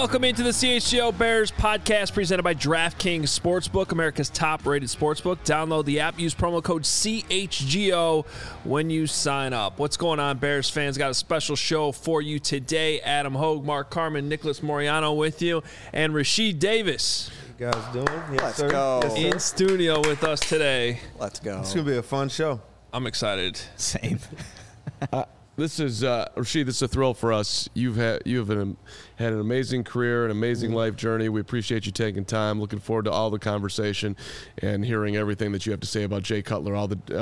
Welcome into the CHGO Bears podcast presented by DraftKings Sportsbook, America's top-rated sportsbook. Download the app. Use promo code CHGO when you sign up. What's going on, Bears fans? Got a special show for you today. Adam Hogue, Mark Carman, Nicholas Moriano with you, and Rasheed Davis. How you guys doing? Yes, Let's sir. go. Yes, sir. In studio with us today. Let's go. It's going to be a fun show. I'm excited. Same. This is Rasheed. This is a thrill for us. You have had an amazing career, an amazing life journey. We appreciate you taking time. Looking forward to all the conversation and hearing everything that you have to say about Jay Cutler.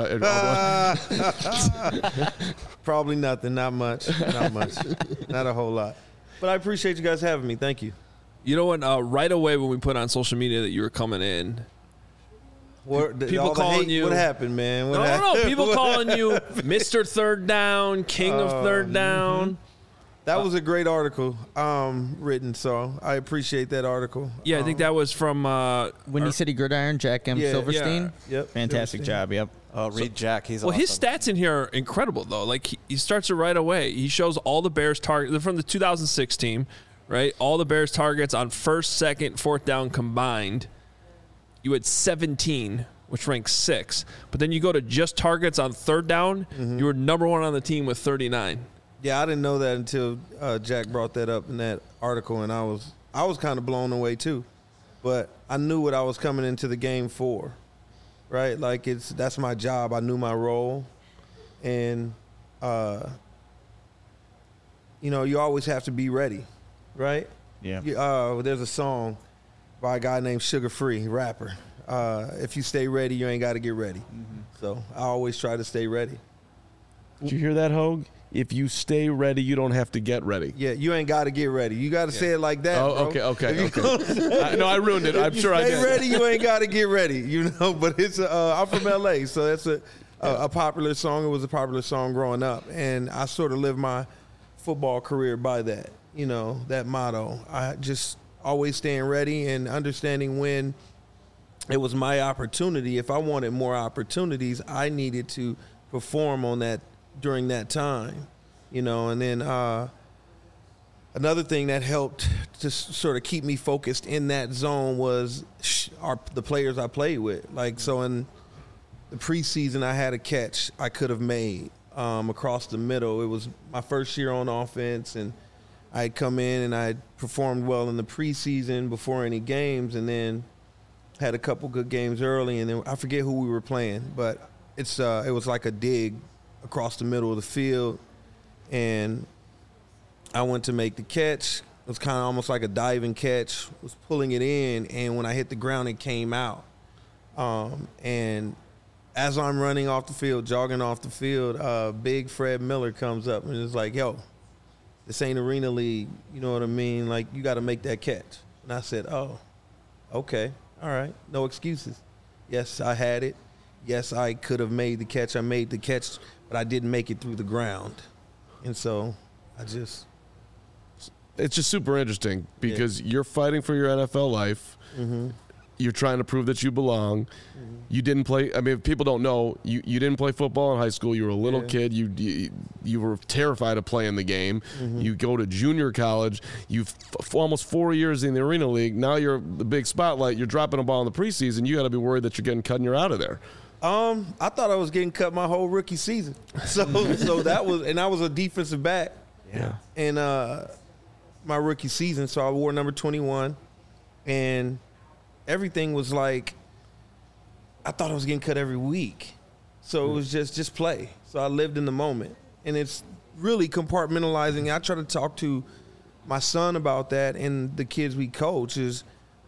Probably nothing. Not much. Not a whole lot. But I appreciate you guys having me. Thank you. You know what? Right away when we put on social media that you were coming in, people calling you. What happened, man? No. People calling you Mr. Third Down, King of Third Down. That was a great article written, so I appreciate that article. Yeah, I think that was from Windy City Gridiron, Jack M. Silverstein. Yeah, yep. Fantastic job, yep. Oh, read Jack. He's well, awesome. his stats in here are incredible, though. Like, he starts it right away. He shows all the Bears targets. They're from the 2006 team, right? All the Bears targets on first, second, fourth down combined. You had 17, which ranks 6. But then you go to just targets on third down, you were number 1 on the team with 39. Yeah, I didn't know that until Jack brought that up in that article, and I was kind of blown away too. But I knew what I was coming into the game for, right? Like that's my job. I knew my role, and you always have to be ready, right? Yeah. There's a song by a guy named Sugar Free, rapper. If you stay ready, you ain't got to get ready. So I always try to stay ready. Did you hear that, Hogue? If you stay ready, you don't have to get ready. Yeah, you ain't got to get ready. You got to say it like that, Oh, bro. okay. No, I ruined it. I'm sure I did. Stay ready, you ain't got to get ready, But it's I'm from L.A., so that's a popular song. It was a popular song growing up, and I sort of lived my football career by that, that motto. I just always staying ready and understanding when it was my opportunity. If I wanted more opportunities, I needed to perform on that during that time, and then another thing that helped to sort of keep me focused in that zone was the players I played with. Like, so in the preseason, I had a catch I could have made across the middle. It was my first year on offense, and I had come in and I had performed well in the preseason before any games, and then had a couple good games early, and then I forget who we were playing, but it was like a dig across the middle of the field, and I went to make the catch. It was kind of almost like a diving catch. Was pulling it in, and when I hit the ground, it came out. And as I'm running off the field, jogging off the field, big Fred Miller comes up and is like, "Yo, this ain't Arena League. You know what I mean? Like, you got to make that catch." And I said, "Oh, okay, all right, no excuses." Yes, I had it. Yes, I could have made the catch. I made the catch, but I didn't make it through the ground. And so it's just super interesting because you're fighting for your NFL life. You're trying to prove that you belong. You didn't play. I mean, if people don't know, you didn't play football in high school. You were a little kid. You were terrified of playing the game. You go to junior college. You've almost 4 years in the Arena League. Now you're the big spotlight. You're dropping a ball in the preseason. You got to be worried that you're getting cut and you're out of there. I thought I was getting cut my whole rookie season. So that was, and I was a defensive back. Yeah. And my rookie season, so I wore number 21, and everything was like, I thought I was getting cut every week. So it was just play. So I lived in the moment, and it's really compartmentalizing. I try to talk to my son about that, and the kids we coach is.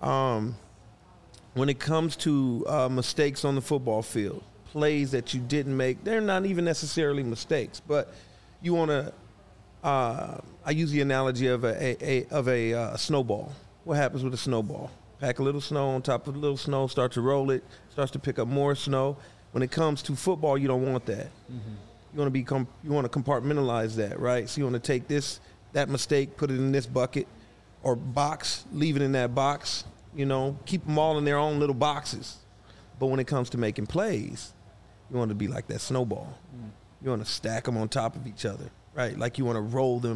When it comes to mistakes on the football field, plays that you didn't make, they're not even necessarily mistakes, but you want to. I use the analogy of a snowball. What happens with a snowball? Pack a little snow on top of a little snow, start to roll it, starts to pick up more snow. When it comes to football, you don't want that. You want to compartmentalize that, right? So you want to take that mistake, put it in this bucket or box, leave it in that box. Keep them all in their own little boxes. But when it comes to making plays, you want to be like that snowball. You want to stack them on top of each other, right? Like you want to roll them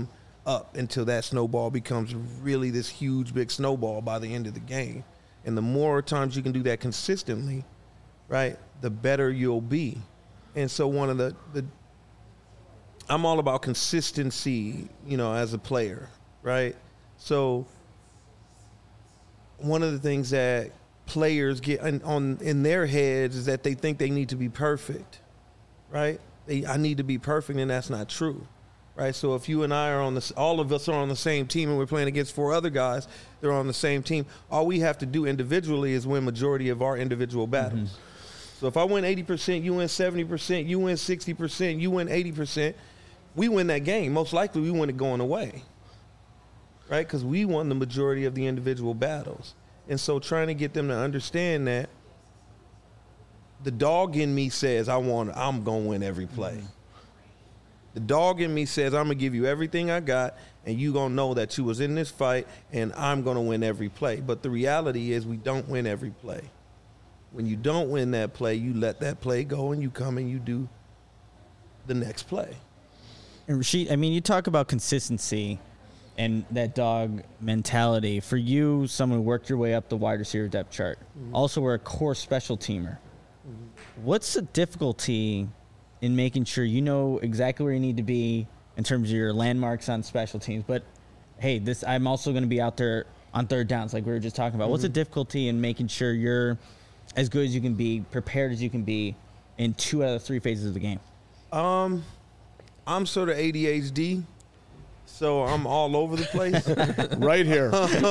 up until that snowball becomes really this huge, big snowball by the end of the game. And the more times you can do that consistently, right, the better you'll be. And so one of the I'm all about consistency, as a player, right? So one of the things that players get in their heads is that they think they need to be perfect, right? I need to be perfect, and that's not true, right? So if you and I are all of us are on the same team, and we're playing against 4 other guys, they're on the same team. All we have to do individually is win majority of our individual battles. Mm-hmm. So if I win 80%, you win 70%, you win 60%, you win 80%, we win that game. Most likely we win it going away, right? Because we won the majority of the individual battles. And so trying to get them to understand that the dog in me says I'm going to win every play. Mm-hmm. The dog in me says I'm going to give you everything I got, and you going to know that you was in this fight, and I'm going to win every play. But the reality is we don't win every play. When you don't win that play, you let that play go, and you come and you do the next play. And Rasheed, you talk about consistency and that dog mentality. For you, someone who worked your way up the wide receiver depth chart, also were a core special teamer. What's the difficulty in making sure you know exactly where you need to be in terms of your landmarks on special teams? But, hey, I'm also going to be out there on third downs like we were just talking about. What's the difficulty in making sure you're as good as you can be, prepared as you can be in 2 out of 3 phases of the game? I'm sort of ADHD, so I'm all over the place. Right here.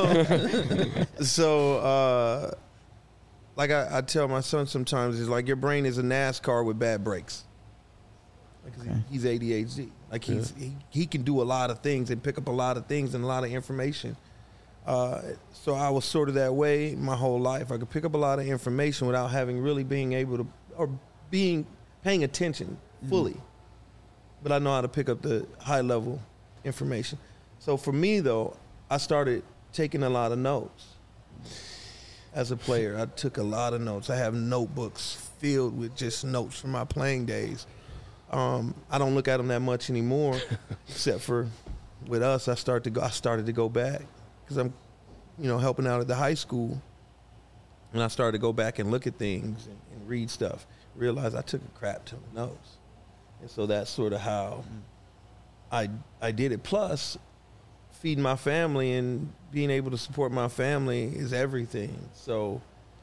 So, like I tell my son sometimes, it's like your brain is a NASCAR with bad brakes. Like he's ADHD. Like he can do a lot of things and pick up a lot of things and a lot of information. So I was sort of that way my whole life. I could pick up a lot of information without having really being able to or paying attention fully. But I know how to pick up the high level information. So for me though, I started taking a lot of notes. As a player, I took a lot of notes. I have notebooks filled with just notes from my playing days. I don't look at them that much anymore, except for with us. I started to go back because I'm, helping out at the high school, and I started to go back and look at things and read stuff. Realized I took a crap ton of notes, and so that's sort of how I did it. Plus, feeding my family and being able to support my family is everything. So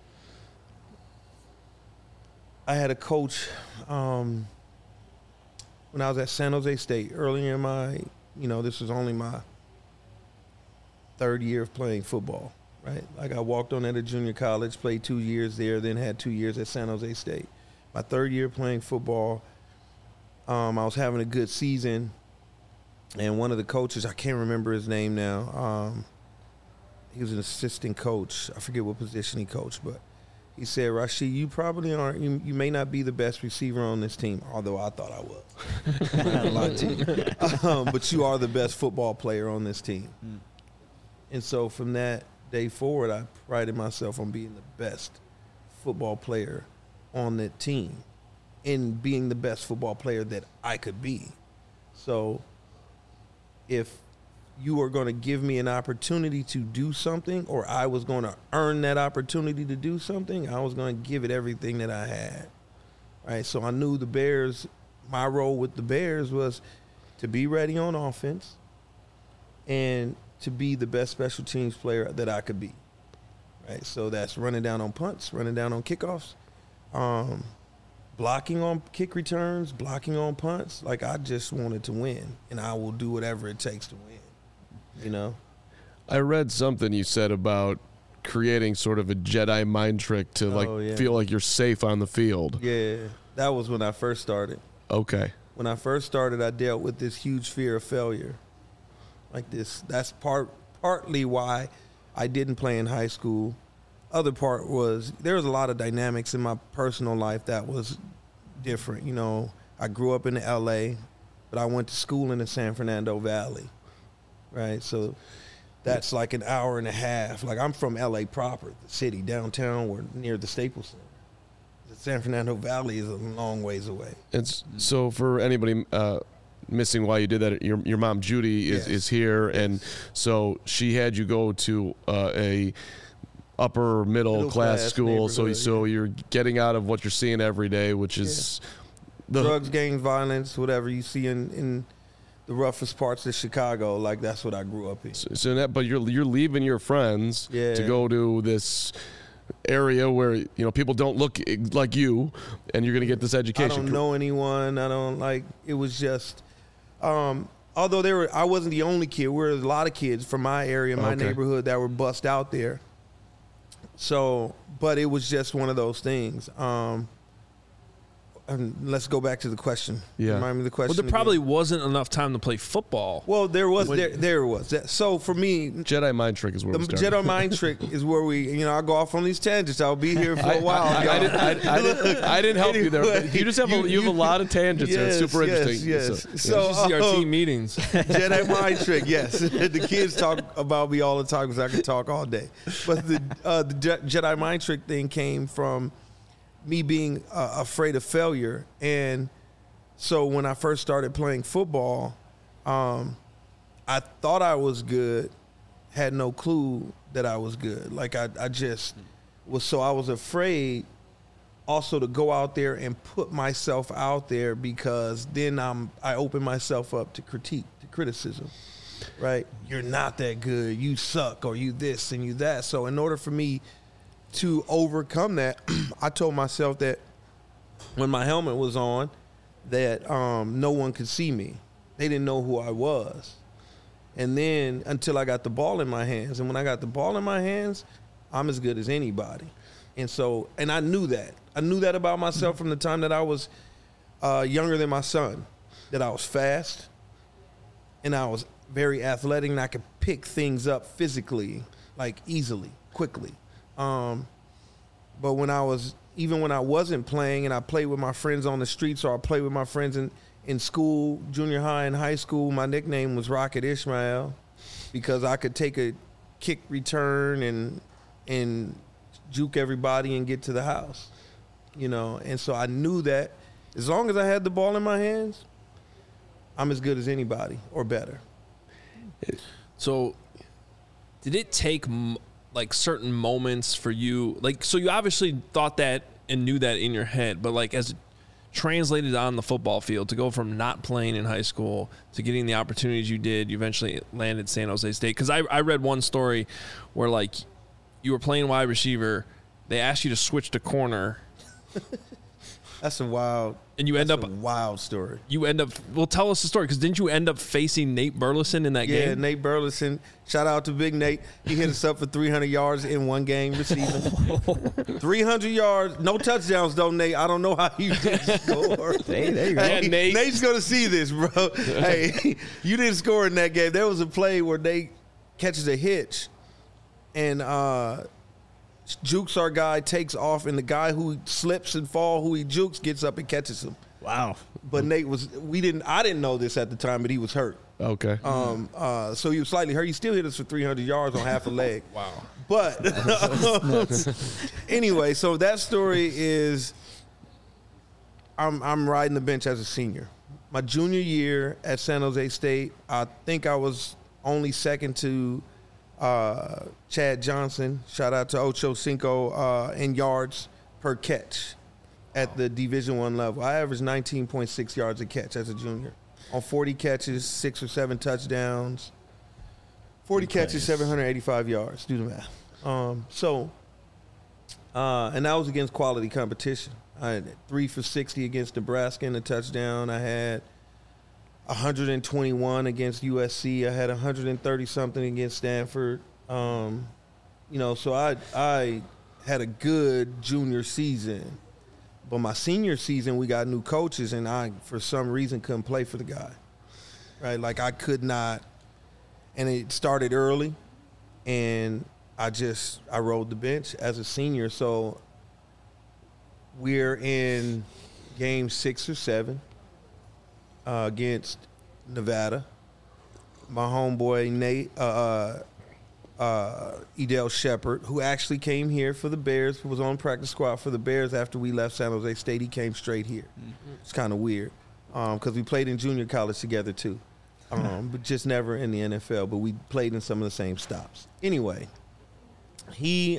I had a coach when I was at San Jose State earlier in my, this was only my 3rd year of playing football, right? Like I walked on at a junior college, played 2 years there, then had 2 years at San Jose State. My 3rd year playing football, I was having a good season. And one of the coaches, I can't remember his name now. He was an assistant coach. I forget what position he coached, but he said, "Rasheed, you probably aren't. You may not be the best receiver on this team, although I thought I was. I had a lot to you. But you are the best football player on this team." And so from that day forward, I prided myself on being the best football player on that team, and being the best football player that I could be. So if you were going to give me an opportunity to do something, or I was going to earn that opportunity to do something, I was going to give it everything that I had, right? So I knew the Bears, my role with the Bears was to be ready on offense and to be the best special teams player that I could be, right? So that's running down on punts, running down on kickoffs, blocking on kick returns, blocking on punts. Like, I just wanted to win, and I will do whatever it takes to win, I read something you said about creating sort of a Jedi mind trick to feel like you're safe on the field. Yeah, that was when I first started. Okay. When I first started, I dealt with this huge fear of failure. Like this, that's partly why I didn't play in high school. Other part was there was a lot of dynamics in my personal life that was different. I grew up in L.A., but I went to school in the San Fernando Valley, right? So that's like an hour and a half. Like, I'm from L.A. proper, the city, downtown. We're near the Staples Center. The San Fernando Valley is a long ways away. So for anybody missing why you did that. Your mom Judy is here, and so she had you go to a upper middle class school. So you're getting out of what you're seeing every day, which is the drugs, gangs, violence, whatever you see in the roughest parts of Chicago. Like that's what I grew up in. But you're leaving your friends to go to this area where people don't look like you, and you're going to get this education. I don't know anyone. I don't like. It was just, although I wasn't the only kid. There were a lot of kids from my area, my neighborhood, that were bussed out there. So, but it was just one of those things. And let's go back to the question. Yeah. Remind me of the question. Well, there probably wasn't enough time to play football. Well, there was. So for me, Jedi mind trick is where we started. Jedi mind trick is where we. I'll go off on these tangents. I'll be here for a while. I didn't help you there. But you just have a lot of tangents. Yes, it's super interesting. Yes. So you see our team meetings. Jedi mind trick. Yes, the kids talk about me all the time because I can talk all day. But the Jedi mind trick thing came from me being afraid of failure. And so when I first started playing football, I thought I was good, had no clue that I was good. Like I just was, so I was afraid also to go out there and put myself out there, because then I open myself up to critique, to criticism, right? You're not that good, you suck, or you this and you that. So in order for me to overcome that, I told myself that when my helmet was on, that no one could see me. They didn't know who I was. And then until I got the ball in my hands. And when I got the ball in my hands, I'm as good as anybody. And I knew that. I knew that about myself from the time that I was younger than my son, that I was fast and I was very athletic and I could pick things up physically, like easily, quickly. But when I wasn't playing and I played with my friends on the streets, or I played with my friends in school, junior high and high school, my nickname was Rocket Ishmael, because I could take a kick return and juke everybody and get to the house, And so I knew that as long as I had the ball in my hands, I'm as good as anybody or better. So did it take certain moments for you, so you obviously thought that and knew that in your head, but as it translated on the football field, to go from not playing in high school to getting the opportunities you did, you eventually landed San Jose State. Because I read one story where you were playing wide receiver, they asked you to switch to corner. That's a wild. And you end up a wild story. Well, tell us the story, because didn't you end up facing Nate Burleson in that game? Yeah, Nate Burleson. Shout out to Big Nate. He hit us up for 300 yards in one game receiving. 300 yards, no touchdowns though, Nate. I don't know how you didn't score. Hey, there you go. Yeah, Nate. Nate's gonna see this, bro. Hey, you didn't score in that game. There was a play where Nate catches a hitch, and jukes our guy, takes off, and the guy who slips and fall, who he jukes, gets up and catches him. Wow. But Nate I didn't know this at the time, but he was hurt. Okay. So he was slightly hurt. He still hit us for 300 yards on half a leg. Wow. But anyway, so that story is I'm riding the bench as a senior. My junior year at San Jose State, I think I was only second to Chad Johnson. Shout out to Ocho Cinco in yards per catch at the Division I level. I averaged 19.6 yards a catch as a junior on 40 catches, 6 or 7 touchdowns. 40 catches, 785 yards. Do the math. And that was against quality competition. I had 3 for 60 against Nebraska in a touchdown. I had 121 against USC. I had 130-something against Stanford. So I had a good junior season. But my senior season, we got new coaches, and I, for some reason, couldn't play for the guy. Right? I could not. And it started early, and I rode the bench as a senior. So we're in game 6 or 7 against Nevada. My homeboy Nate, Edel Shepard, who actually came here for the Bears, was on practice squad for the Bears after we left San Jose State. He came straight here. Mm-hmm. It's kind of weird. because we played in junior college together too, but just never in the NFL. But we played in some of the same stops. Anyway, he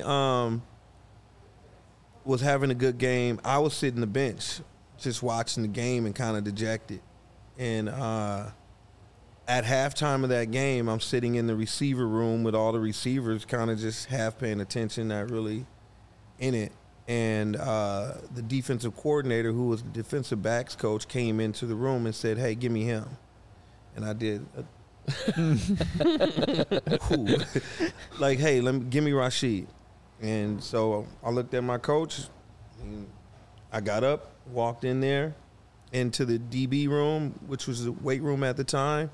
was having a good game. I was sitting the bench, just watching the game and kind of dejected. And at halftime of that game, I'm sitting in the receiver room with all the receivers, kind of just half paying attention, not really in it. And the defensive coordinator, who was the defensive backs coach, came into the room and said, "Hey, give me him." And I did. Like, "Hey, give me Rashid." And so I looked at my coach. And I got up, walked in there into the DB room, which was the weight room at the time.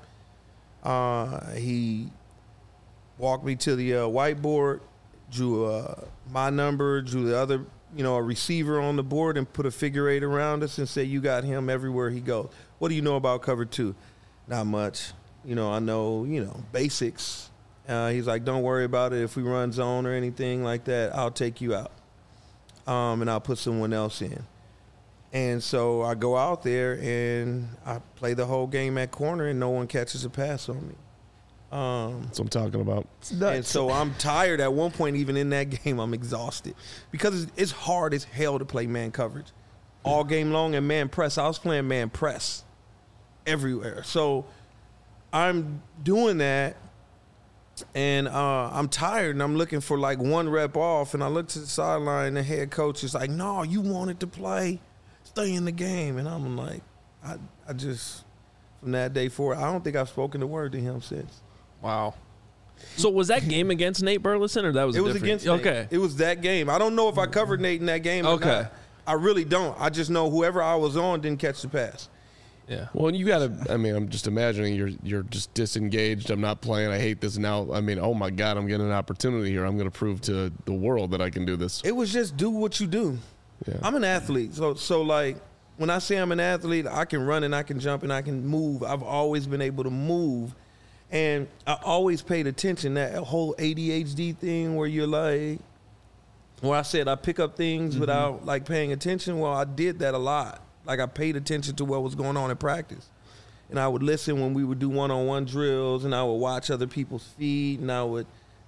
He walked me to the whiteboard, drew my number, drew the other, a receiver on the board, and put a figure 8 around us and said, "You got him everywhere he goes. What do you know about cover 2? "Not much. I know, basics." He's like, "Don't worry about it. If we run zone or anything like that, I'll take you out. And I'll put someone else in." And so I go out there and I play the whole game at corner and no one catches a pass on me. That's what I'm talking about. And so I'm tired at one point. Even in that game, I'm exhausted because it's hard as hell to play man coverage all game long and man press. I was playing man press everywhere. So I'm doing that and I'm tired and I'm looking for like one rep off. And I look to the sideline and the head coach is like, "No, you wanted to play. Stay in the game." And I'm like, I just, from that day forward, I don't think I've spoken a word to him since. Wow. So was that game against Nate Burleson, or that was it was different? against Nate. Okay. It was that game. I don't know if I covered Nate in that game or Okay. not. I really don't. I just know whoever I was on didn't catch the pass. Yeah. Well, you got to. I mean, I'm just imagining you're just disengaged. I'm not playing. I hate this now. I mean, oh my God, I'm getting an opportunity here. I'm going to prove to the world that I can do this. It was just do what you do. Yeah. I'm an athlete. So like when I say I'm an athlete, I can run and I can jump and I can move. I've always been able to move. And I always paid attention, that whole ADHD thing where you're like, where I said I pick up things without like paying attention. Well, I did that a lot. Like I paid attention to what was going on in practice. And I would listen when we would do one-on-one drills and I would watch other people's feet and I would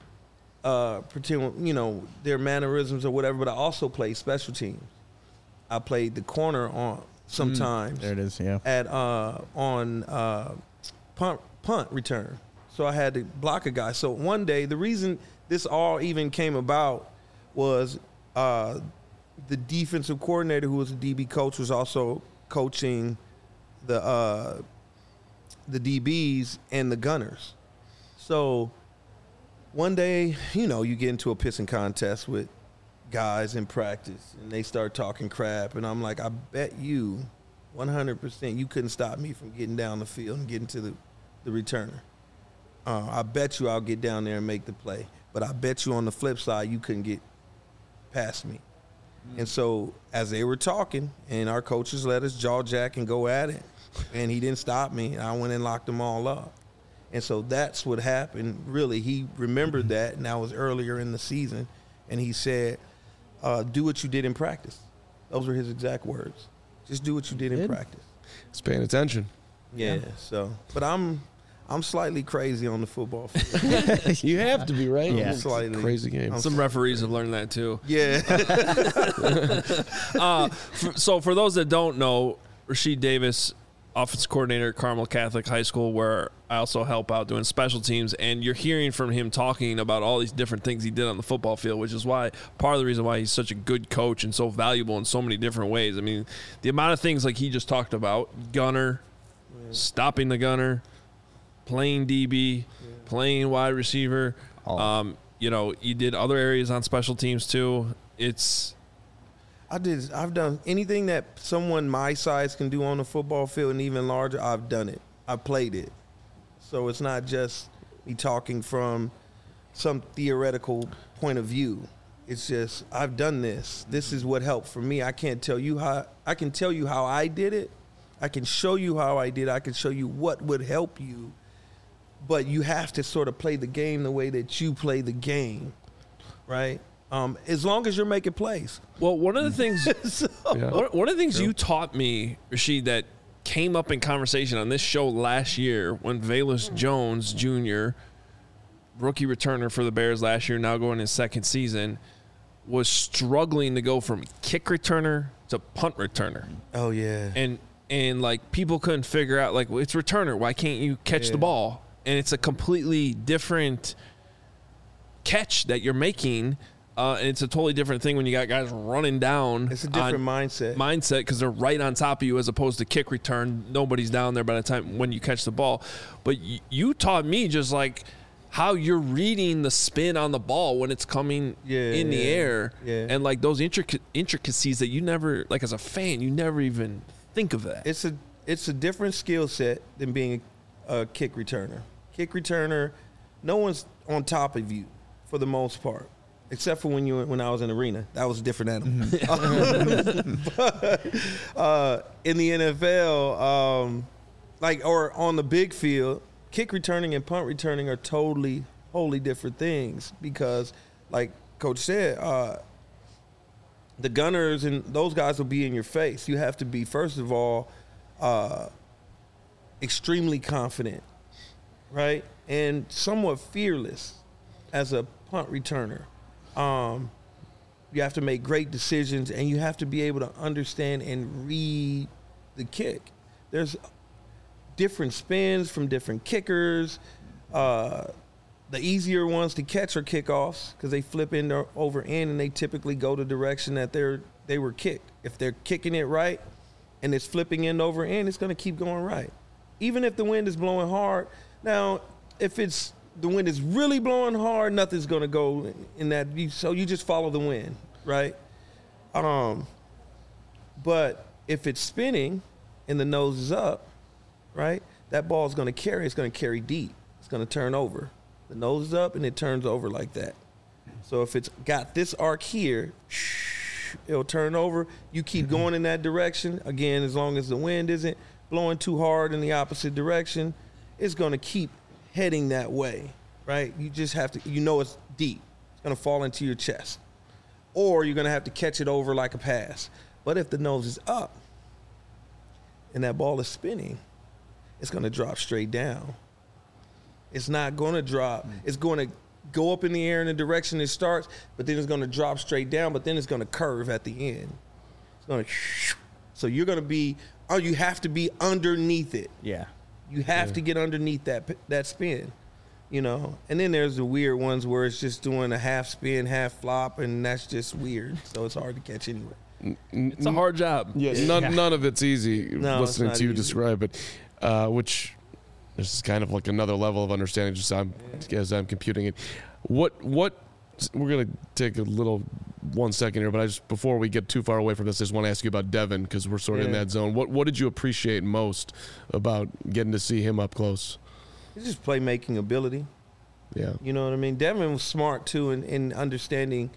pretend, their mannerisms or whatever, but I also played special teams. I played the corner on sometimes. There it is, yeah. On punt return. So I had to block a guy. So one day, the reason this all even came about was the defensive coordinator, who was a DB coach, was also coaching the DBs and the gunners. So one day, you get into a pissing contest with guys in practice, and they start talking crap, and I'm like, I bet you 100% you couldn't stop me from getting down the field and getting to the returner. I bet you I'll get down there and make the play, but I bet you on the flip side you couldn't get past me. And so as they were talking, and our coaches let us jaw jack and go at it, and he didn't stop me, I went and locked them all up. And so that's what happened. Really, he remembered that, and that was earlier in the season, and he said, do what you did in practice. Those were his exact words. Just do what you did in practice. Just paying attention. Yeah. So, but I'm slightly crazy on the football field. You have to be, right? Yeah. Slightly. Crazy game. Some referees have learned that too. Yeah. So for those that don't know, Rashid Davis, offensive coordinator at Carmel Catholic High School, where I also help out doing special teams, and you're hearing from him talking about all these different things he did on the football field, which is why part of the reason why he's such a good coach and so valuable in so many different ways. I mean, the amount of things like he just talked about, gunner, stopping the gunner, playing DB, playing wide receiver. You did other areas on special teams too. I've done anything that someone my size can do on the football field and even larger, I've done it. I've played it. So it's not just me talking from some theoretical point of view. It's just, I've done this. This is what helped for me. I can tell you how I did it. I can show you how I did it. I can show you what would help you. But you have to sort of play the game the way that you play the game, right? As long as you're making plays. Well, one of the things, one of the things you taught me, Rashid, that came up in conversation on this show last year when Velus Jones Jr., rookie returner for the Bears last year, now going his second season, was struggling to go from kick returner to punt returner. Oh, yeah. And like, people couldn't figure out, like, well, it's returner. Why can't you catch the ball? And it's a completely different catch that you're making. And it's a totally different thing when you got guys running down. It's a different mindset. Because they're right on top of you as opposed to kick return. Nobody's down there by the time when you catch the ball. But you taught me just like how you're reading the spin on the ball when it's coming in the air. Yeah. And like those intricacies that you never, like as a fan, you never even think of that. It's a different skill set than being a kick returner. Kick returner, no one's on top of you for the most part. Except for when I was in the arena. That was a different animal. But in the NFL, or on the big field, kick returning and punt returning are totally different things because, like Coach said, the gunners and those guys will be in your face. You have to be, first of all, extremely confident, right? And somewhat fearless as a punt returner. You have to make great decisions, and you have to be able to understand and read the kick. There's different spins from different kickers. The easier ones to catch are kickoffs because they flip over in, and they typically go the direction that they were kicked. If they're kicking it right and it's flipping end over end, it's going to keep going right. Even if the wind is blowing hard. Now, if the wind is really blowing hard, nothing's going to go in that. So you just follow the wind, right? But if it's spinning and the nose is up, right, that ball is going to carry. It's going to carry deep. It's going to turn over. The nose is up and it turns over like that. So if it's got this arc here, it'll turn over. You keep going in that direction. Again, as long as the wind isn't blowing too hard in the opposite direction, it's going to keep heading that way, right? You just have to, it's deep. It's going to fall into your chest. Or you're going to have to catch it over like a pass. But if the nose is up and that ball is spinning, it's going to drop straight down. It's not going to drop. It's going to go up in the air in the direction it starts, but then it's going to drop straight down, but then it's going to curve at the end. It's going to, so you're going to be, you have to be underneath it. Yeah. You have to get underneath that spin, And then there's the weird ones where it's just doing a half spin, half flop, and that's just weird. So it's hard to catch anyway. It's a hard job. Yeah, none of it's easy listening to you describe it, which this is kind of like another level of understanding just as I'm computing it. What we're going to take a little 1 second here, but before we get too far away from this, I just want to ask you about Devin because we're sort of in that zone. What did you appreciate most about getting to see him up close? It's just playmaking ability. Yeah. You know what I mean? Devin was smart, too, in understanding.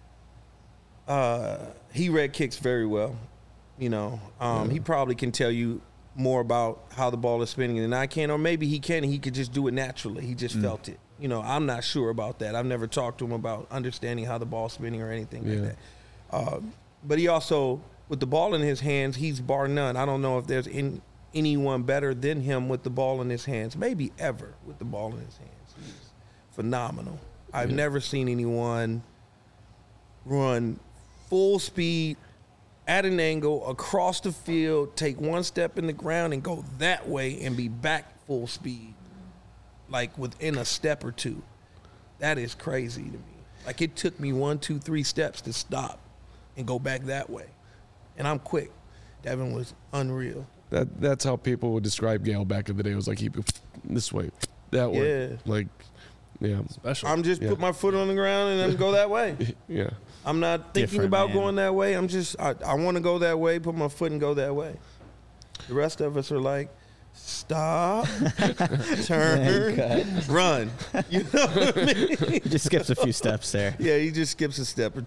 He read kicks very well. He probably can tell you more about how the ball is spinning than I can, or maybe he can. He could just do it naturally. He just felt it. I'm not sure about that. I've never talked to him about understanding how the ball's spinning or anything like that. But he also, with the ball in his hands, he's bar none. I don't know if there's anyone better than him with the ball in his hands, maybe ever with the ball in his hands. He's phenomenal. I've never seen anyone run full speed at an angle across the field, take one step in the ground and go that way and be back full speed. Like within a step or two. That is crazy to me. Like it took me 1, 2, 3 steps to stop and go back that way. And I'm quick. Devin was unreal. That's how people would describe Gale back in the day. It was like he this way, that way. Yeah. Like, yeah. Special. I'm just put my foot on the ground and then go that way. Yeah. I'm not thinking about going that way. I'm just, I want to go that way, put my foot and go that way. The rest of us are like, stop, turn, run. You know what I mean? He just skips a few steps there. Yeah, he just skips a step or two.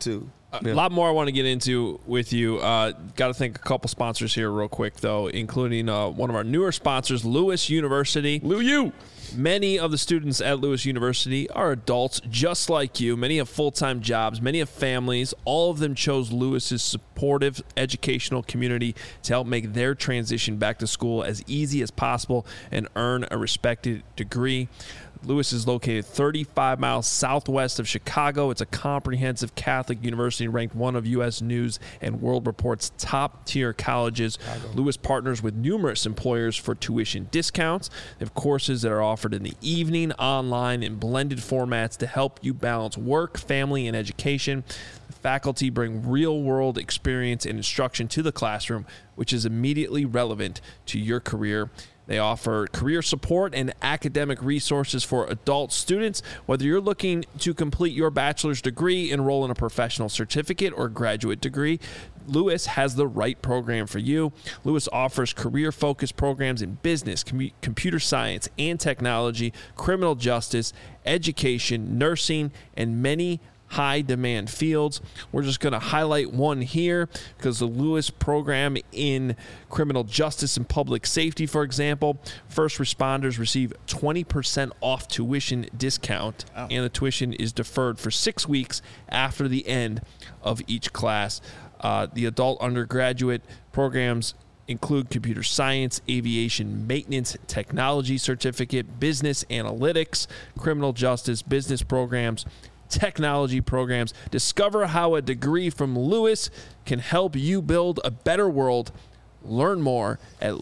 A lot more I want to get into with you. Got to thank a couple sponsors here real quick, though, including one of our newer sponsors, Lewis University. Lou. Many of the students at Lewis University are adults just like you. Many have full-time jobs. Many have families. All of them chose Lewis's supportive educational community to help make their transition back to school as easy as possible and earn a respected degree. Lewis is located 35 miles southwest of Chicago. It's a comprehensive Catholic university ranked one of U.S. News and World Report's top-tier colleges. Lewis partners with numerous employers for tuition discounts. They have courses that are offered in the evening, online, and blended formats to help you balance work, family, and education. The faculty bring real-world experience and instruction to the classroom, which is immediately relevant to your career. They offer career support and academic resources for adult students. Whether you're looking to complete your bachelor's degree, enroll in a professional certificate, or graduate degree, Lewis has the right program for you. Lewis offers career-focused programs in business, computer science and technology, criminal justice, education, nursing, and many high-demand fields. We're just going to highlight one here because the Lewis program in criminal justice and public safety, for example, first responders receive 20% off tuition discount, and the tuition is deferred for 6 weeks after the end of each class. The adult undergraduate programs include computer science, aviation maintenance, technology certificate, business analytics, criminal justice, business programs, technology programs. Discover how a degree from Lewis can help you build a better world. Learn more at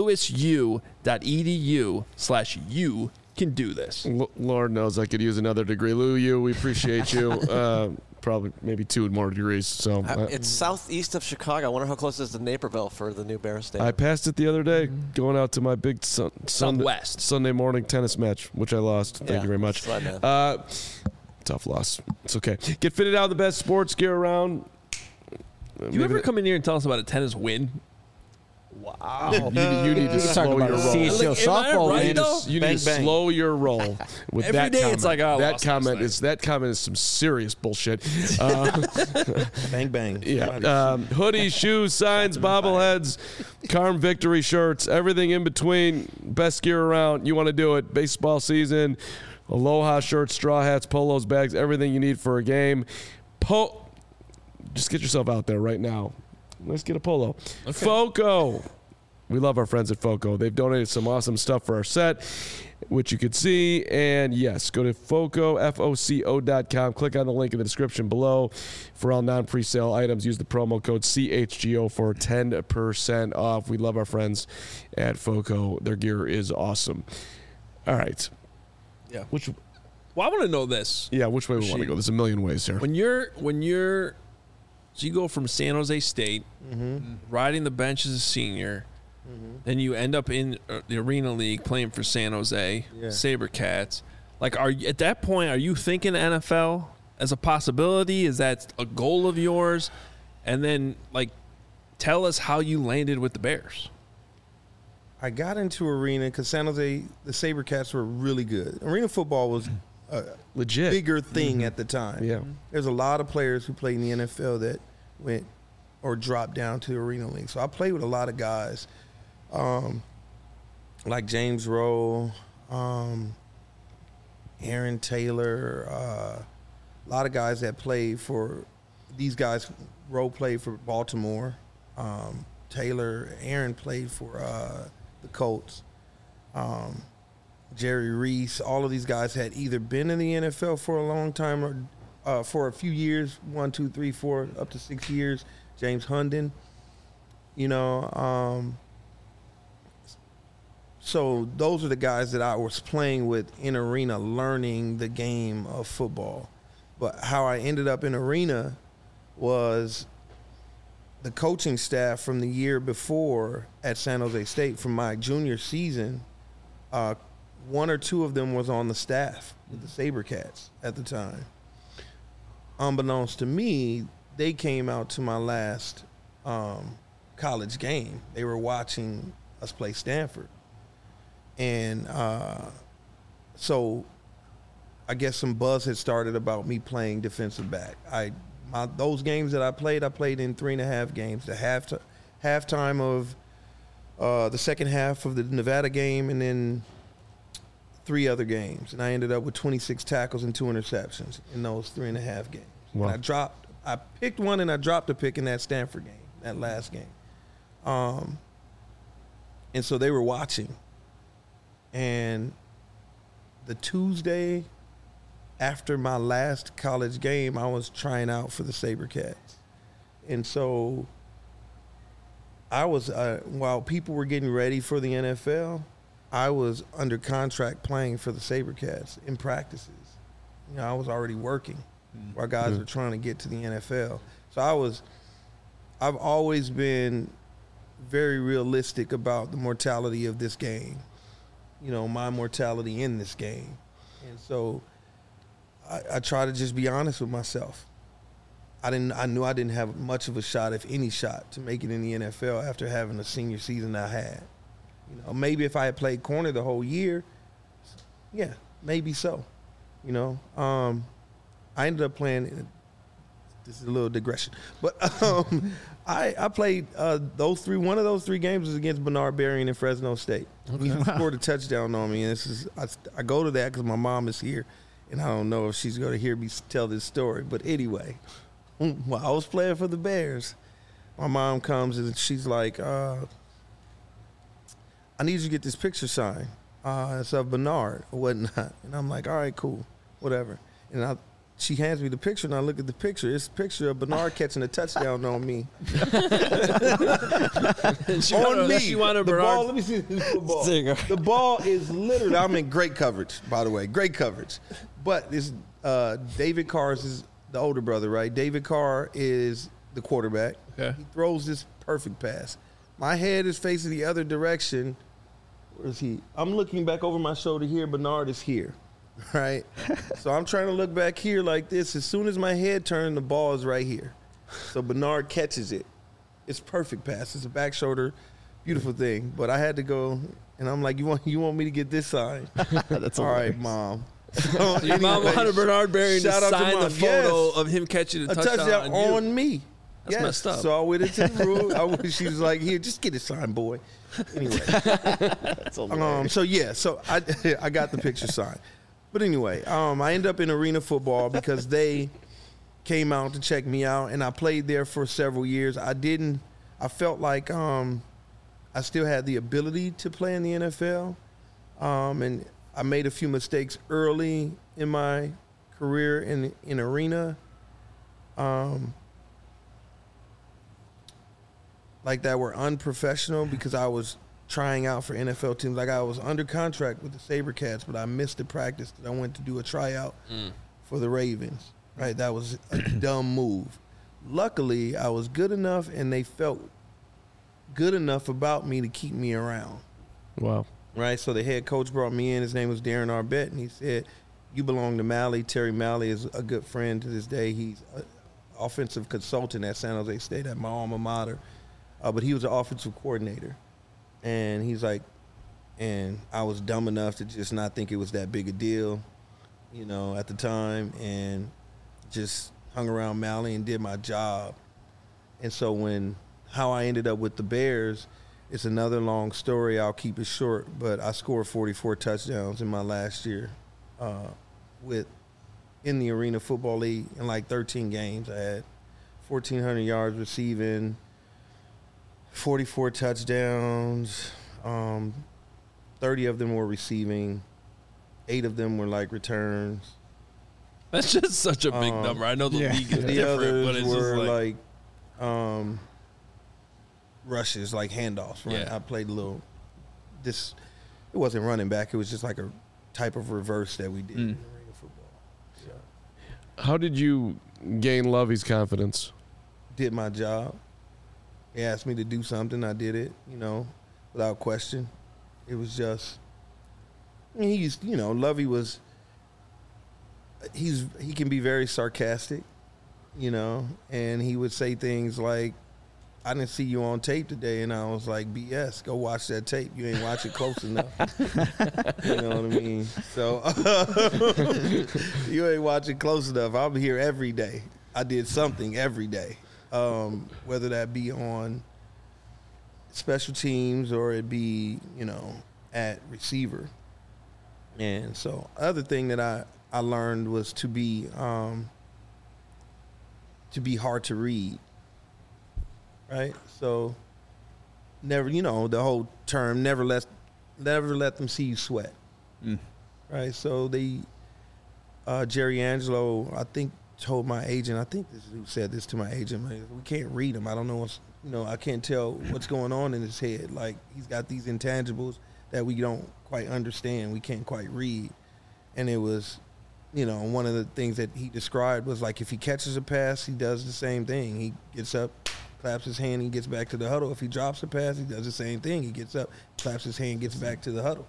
lewisu.edu/you can do this. Lord knows I could use another degree. Lou, we appreciate you. Probably maybe 2 more degrees. So it's southeast of Chicago. I wonder how close it is to Naperville for the new Bears Stadium. I passed it the other day going out to my big Sunday morning tennis match, which I lost. Thank you very much. Tough loss. It's okay. Get fitted out the best sports gear around. You ever come in here and tell us about a tennis win? Wow. You need to slow your roll. CHL softball right, You need to slow your roll with Every that day comment. it's like, oh, that comment is some serious bullshit. Bang, bang. Yeah. Hoodies, shoes, signs, bobbleheads, Carm Victory shirts, everything in between. Best gear around. You want to do it. Baseball season. Aloha shirts, straw hats, polos, bags, everything you need for a game. Just get yourself out there right now. Let's get a polo. Okay. FOCO. We love our friends at FOCO. They've donated some awesome stuff for our set, which you could see. And, yes, go to FOCO.com. Click on the link in the description below for all non-presale items. Use the promo code CHGO for 10% off. We love our friends at FOCO. Their gear is awesome. All right. Yeah. Well, I want to know this. Yeah, which way we want to go. There's a million ways here. So you go from San Jose State, riding the bench as a senior, then you end up in the Arena League playing for San Jose SaberCats. Like, at that point, are you thinking NFL as a possibility? Is that a goal of yours? And then, tell us how you landed with the Bears. I got into Arena because San Jose, the SaberCats were really good. Arena football was a legit bigger thing at the time. Yeah. There's a lot of players who played in the NFL that went or dropped down to the Arena League. So I played with a lot of guys like James Rowe, Aaron Taylor, a lot of guys that played for these guys. Rowe played for Baltimore. Aaron played for the Colts. Jerry Reese, all of these guys had either been in the NFL for a long time or for a few years, 1, 2, 3, 4, up to 6 years. James Hunden, so those are the guys that I was playing with in Arena, learning the game of football. But how I ended up in Arena was the coaching staff from the year before at San Jose State, from my junior season, 1 or 2 of them was on the staff with the SaberCats at the time. Unbeknownst to me, they came out to my last college game. They were watching us play Stanford. And so I guess some buzz had started about me playing defensive back. I those games that I played in 3.5 games. The halftime of the second half of the Nevada game, and then 3 other games. And I ended up with 26 tackles and 2 interceptions in those 3.5 games. Wow. And I picked one and I dropped a pick in that Stanford game, that last game. And so they were watching. And the Tuesday after my last college game, I was trying out for the SaberCats. And so I was, while people were getting ready for the NFL, I was under contract playing for the SaberCats in practices. You know, I was already working while guys were trying to get to the NFL. So I've always been very realistic about the mortality of this game. You know, my mortality in this game. And so I try to just be honest with myself. I knew I didn't have much of a shot, if any shot, to make it in the NFL after having the senior season I had. You know, maybe if I had played corner the whole year, yeah, maybe so. You know, I ended up playing. This is a little digression, but I played those 3. One of those 3 games was against Bernard Berrien in Fresno State. He scored a touchdown on me, and this is I go to that because my mom is here, and I don't know if she's going to hear me tell this story. But anyway, while I was playing for the Bears, my mom comes and she's like, "I need you to get this picture signed. It's of Bernard or whatnot." And I'm like, "All right, cool, whatever." And she hands me the picture, and I look at the picture. It's a picture of Bernard catching a touchdown on me. She wanted The Bernard. ball, let me see the ball. There you go. The ball is literally, I'm in great coverage, by the way, great coverage. But this David Carr is the older brother, right? David Carr is the quarterback. Okay. He throws this perfect pass. My head is facing the other direction. Where is he? I'm looking back over my shoulder here. Bernard is here. Right? So I'm trying to look back here like this. As soon as my head turned, the ball is right here. So Bernard catches it. It's perfect pass. It's a back shoulder, beautiful thing. But I had to go, and I'm like, you want me to get this signed? That's all right, hilarious. Mom. So Your mom anyway, wanted Bernard Berrien to shout out to sign the Mom. photo Yes. of him catching a a touchdown on you. on me. That's messed up. So I went into the room. She was like, "Here, just get it signed, boy." Anyway, That's hilarious. so I got the picture signed. But anyway, I ended up in arena football because they came out to check me out, and I played there for several years. I felt like I still had the ability to play in the NFL, and I made a few mistakes early in my career in arena, like that were unprofessional because I was trying out for NFL teams. Like I was under contract with the SaberCats, but I missed the practice because I went to do a tryout for the Ravens. Right, that was a dumb move. Luckily, I was good enough, and they felt good enough about me to keep me around. Wow. Right, so the head coach brought me in. His name was Darren Arbett, and he said, "You belong to Malley." Terry Malley is a good friend to this day. He's an offensive consultant at San Jose State at my alma mater, but he was an offensive coordinator. And he's like, and I was dumb enough to just not think it was that big a deal, you know, at the time, and just hung around Malley and did my job. And so how I ended up with the Bears, it's another long story. I'll keep it short, but I scored 44 touchdowns in my last year in the Arena Football League in like 13 games. I had 1,400 yards receiving, 44 touchdowns, 30 of them were receiving, 8 of them were like returns. That's just such a big number. I know the league is The different, but others it's just were like rushes, like handoffs. Right? Yeah. I played it wasn't running back. It was just like a type of reverse that we did in arena football. So, How did you gain Lovey's confidence? did my job. He asked me to do something. I did it, you know, without question. It was just, Lovey was, he can be very sarcastic, you know, and he would say things like, "I didn't see you on tape today," and I was like, "BS, go watch that tape. You ain't watch it close enough." You know what I mean? So, you ain't watching close enough. I'm here every day. I did something every day, whether that be on special teams or it be, at receiver. And so other thing that I learned was to be hard to read, right? So never, the whole term, never let them see you sweat, right? So Jerry Angelo, I think, told my agent, I think this is who said this to my agent, we can't read him. I don't know I can't tell what's going on in his head. Like, he's got these intangibles that we don't quite understand. We can't quite read. And it was, one of the things that he described was like, if he catches a pass, he does the same thing. He gets up, claps his hand, he gets back to the huddle. If he drops a pass, he does the same thing. He gets up, claps his hand, gets back to the huddle.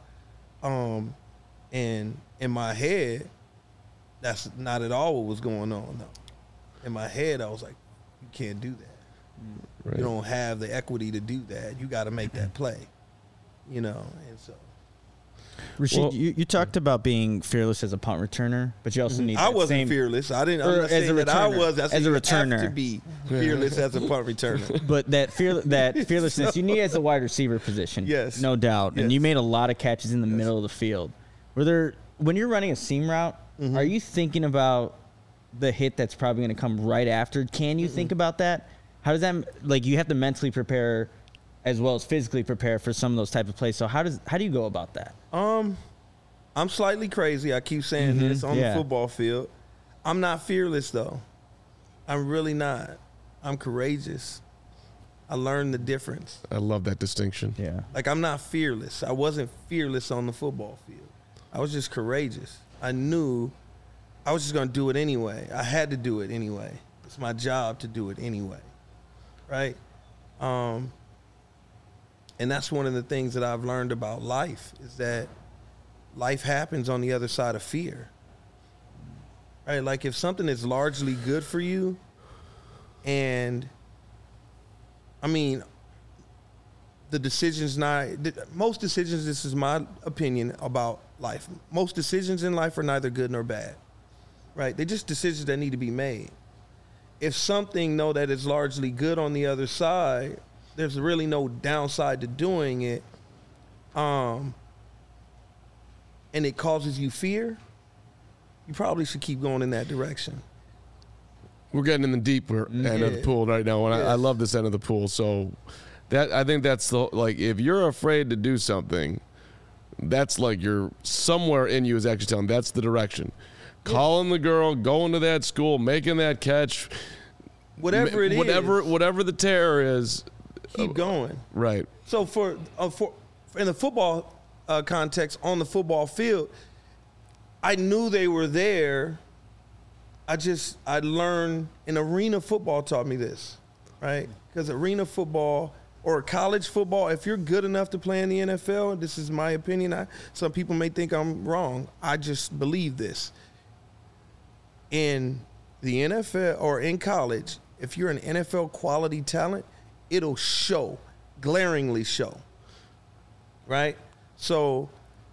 And in my head, that's not at all what was going on, though. In my head, I was like, you can't do that. Right. You don't have the equity to do that. You got to make that play, and so. Rashid, you talked about being fearless as a punt returner, but you also need. I wasn't fearless. I'm not saying that I was. As a returner, have to be fearless as a punt returner. But that fearlessness you need as a wide receiver position. Yes, no doubt. Yes. And you made a lot of catches in the middle of the field. When you're running a seam route, are you thinking about the hit that's probably going to come right after? Can you think about that? How does that, you have to mentally prepare as well as physically prepare for some of those type of plays. So how do you go about that? I'm slightly crazy. I keep saying this on the football field. I'm not fearless, though. I'm really not. I'm courageous. I learned the difference. I love that distinction. Yeah. Like, I'm not fearless. I wasn't fearless on the football field. I was just courageous. I knew I was just going to do it anyway. I had to do it anyway. It's my job to do it anyway. Right? And that's one of the things that I've learned about life is that life happens on the other side of fear. Right? Like, if something is largely good for you, and most decisions, this is my opinion about life. Most decisions in life are neither good nor bad. Right? They're just decisions that need to be made. If something, that is largely good on the other side, there's really no downside to doing it, and it causes you fear, you probably should keep going in that direction. We're getting in the deeper end of the pool right now, and I love this end of the pool. So I think that's if you're afraid to do something, that's like you're somewhere in you is actually telling that's the direction. Calling the girl, going to that school, making that catch, whatever it is, whatever the terror is, keep going. Right. So for in the football context on the football field, I knew they were there. I learned, and arena football taught me this, right? Because arena football or college football, if you're good enough to play in the NFL, this is my opinion. Some people may think I'm wrong. I just believe this. In the NFL or in college, if you're an NFL quality talent, it'll show, glaringly show, right? So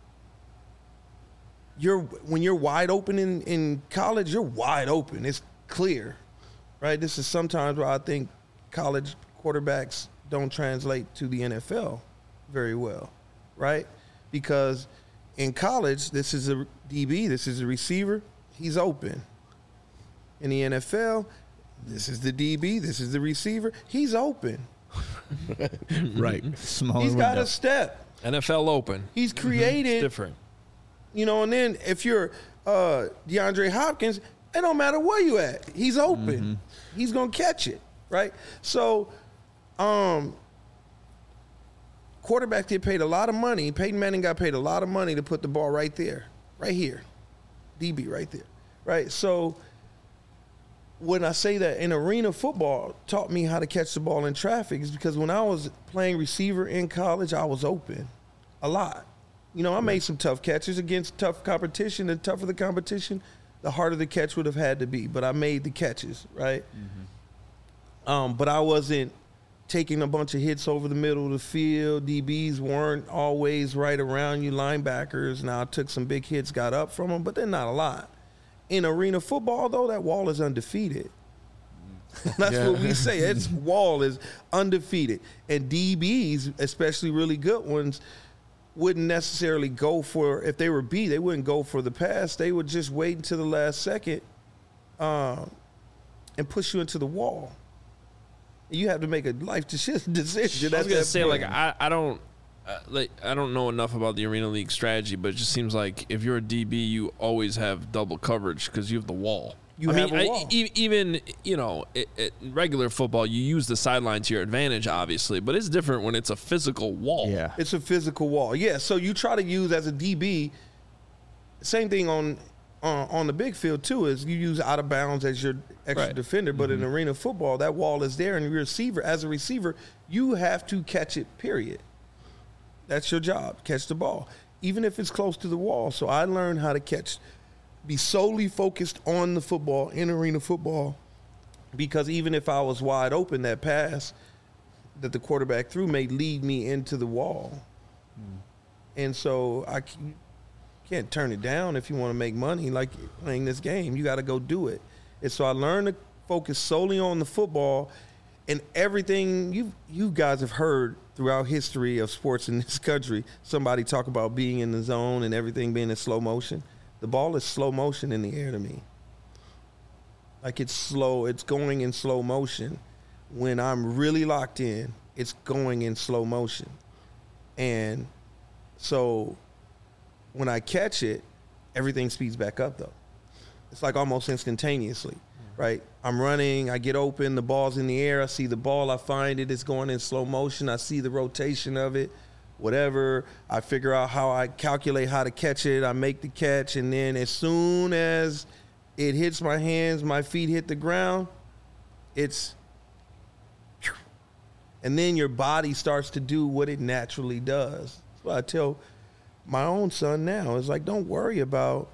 when you're wide open in college, you're wide open. It's clear, right? This is sometimes where I think college quarterbacks don't translate to the NFL very well, right? Because in college, this is a DB, this is a receiver, he's open. In the NFL, this is the DB, this is the receiver, he's open. Right. He's got a step. NFL open. He's created. It's different. And then if you're DeAndre Hopkins, it don't matter where you at. He's open. He's going to catch it, right? So quarterbacks get paid a lot of money. Peyton Manning got paid a lot of money to put the ball right there, right here. DB right there, right? So when I say that in arena football taught me how to catch the ball in traffic is because when I was playing receiver in college, I was open a lot. I made some tough catches against tough competition. The tougher the competition, the harder the catch would have had to be. But I made the catches, right? But I wasn't taking a bunch of hits over the middle of the field. DBs weren't always right around you. Linebackers, now I took some big hits, got up from them, but they're not a lot. In arena football, though, that wall is undefeated. That's what we say. Its wall is undefeated. And DBs, especially really good ones, wouldn't necessarily go for, if they were B, they wouldn't go for the pass. They would just wait until the last second and push you into the wall. You have to make a life decision. I was gonna say, like, I don't know enough about the Arena League strategy, but it just seems like if you're a DB, you always have double coverage because you have the wall. You have a wall. Even in regular football, you use the sideline to your advantage, obviously, but it's different when it's a physical wall. Yeah. It's a physical wall. Yeah, so you try to use as a DB, same thing on the big field too, is you use out of bounds as your extra defender, but in arena football, that wall is there, and as a receiver, you have to catch it, period. That's your job, catch the ball, even if it's close to the wall. So I learned how to be solely focused on the football in arena football, because even if I was wide open, that pass that the quarterback threw may lead me into the wall. And so I can't turn it down if you want to make money like playing this game. You got to go do it. And so I learned to focus solely on the football, and everything you guys have heard throughout history of sports in this country, somebody talk about being in the zone and everything being in slow motion. The ball is slow motion in the air to me. Like, it's slow. It's going in slow motion. When I'm really locked in, it's going in slow motion. And so when I catch it, everything speeds back up, though. It's like almost instantaneously, right? I'm running, I get open, the ball's in the air, I see the ball, I find it, it's going in slow motion, I see the rotation of it, whatever. I figure out how I calculate how to catch it, I make the catch, and then as soon as it hits my hands, my feet hit the ground, and then your body starts to do what it naturally does. That's what I tell my own son now. It's like, don't worry about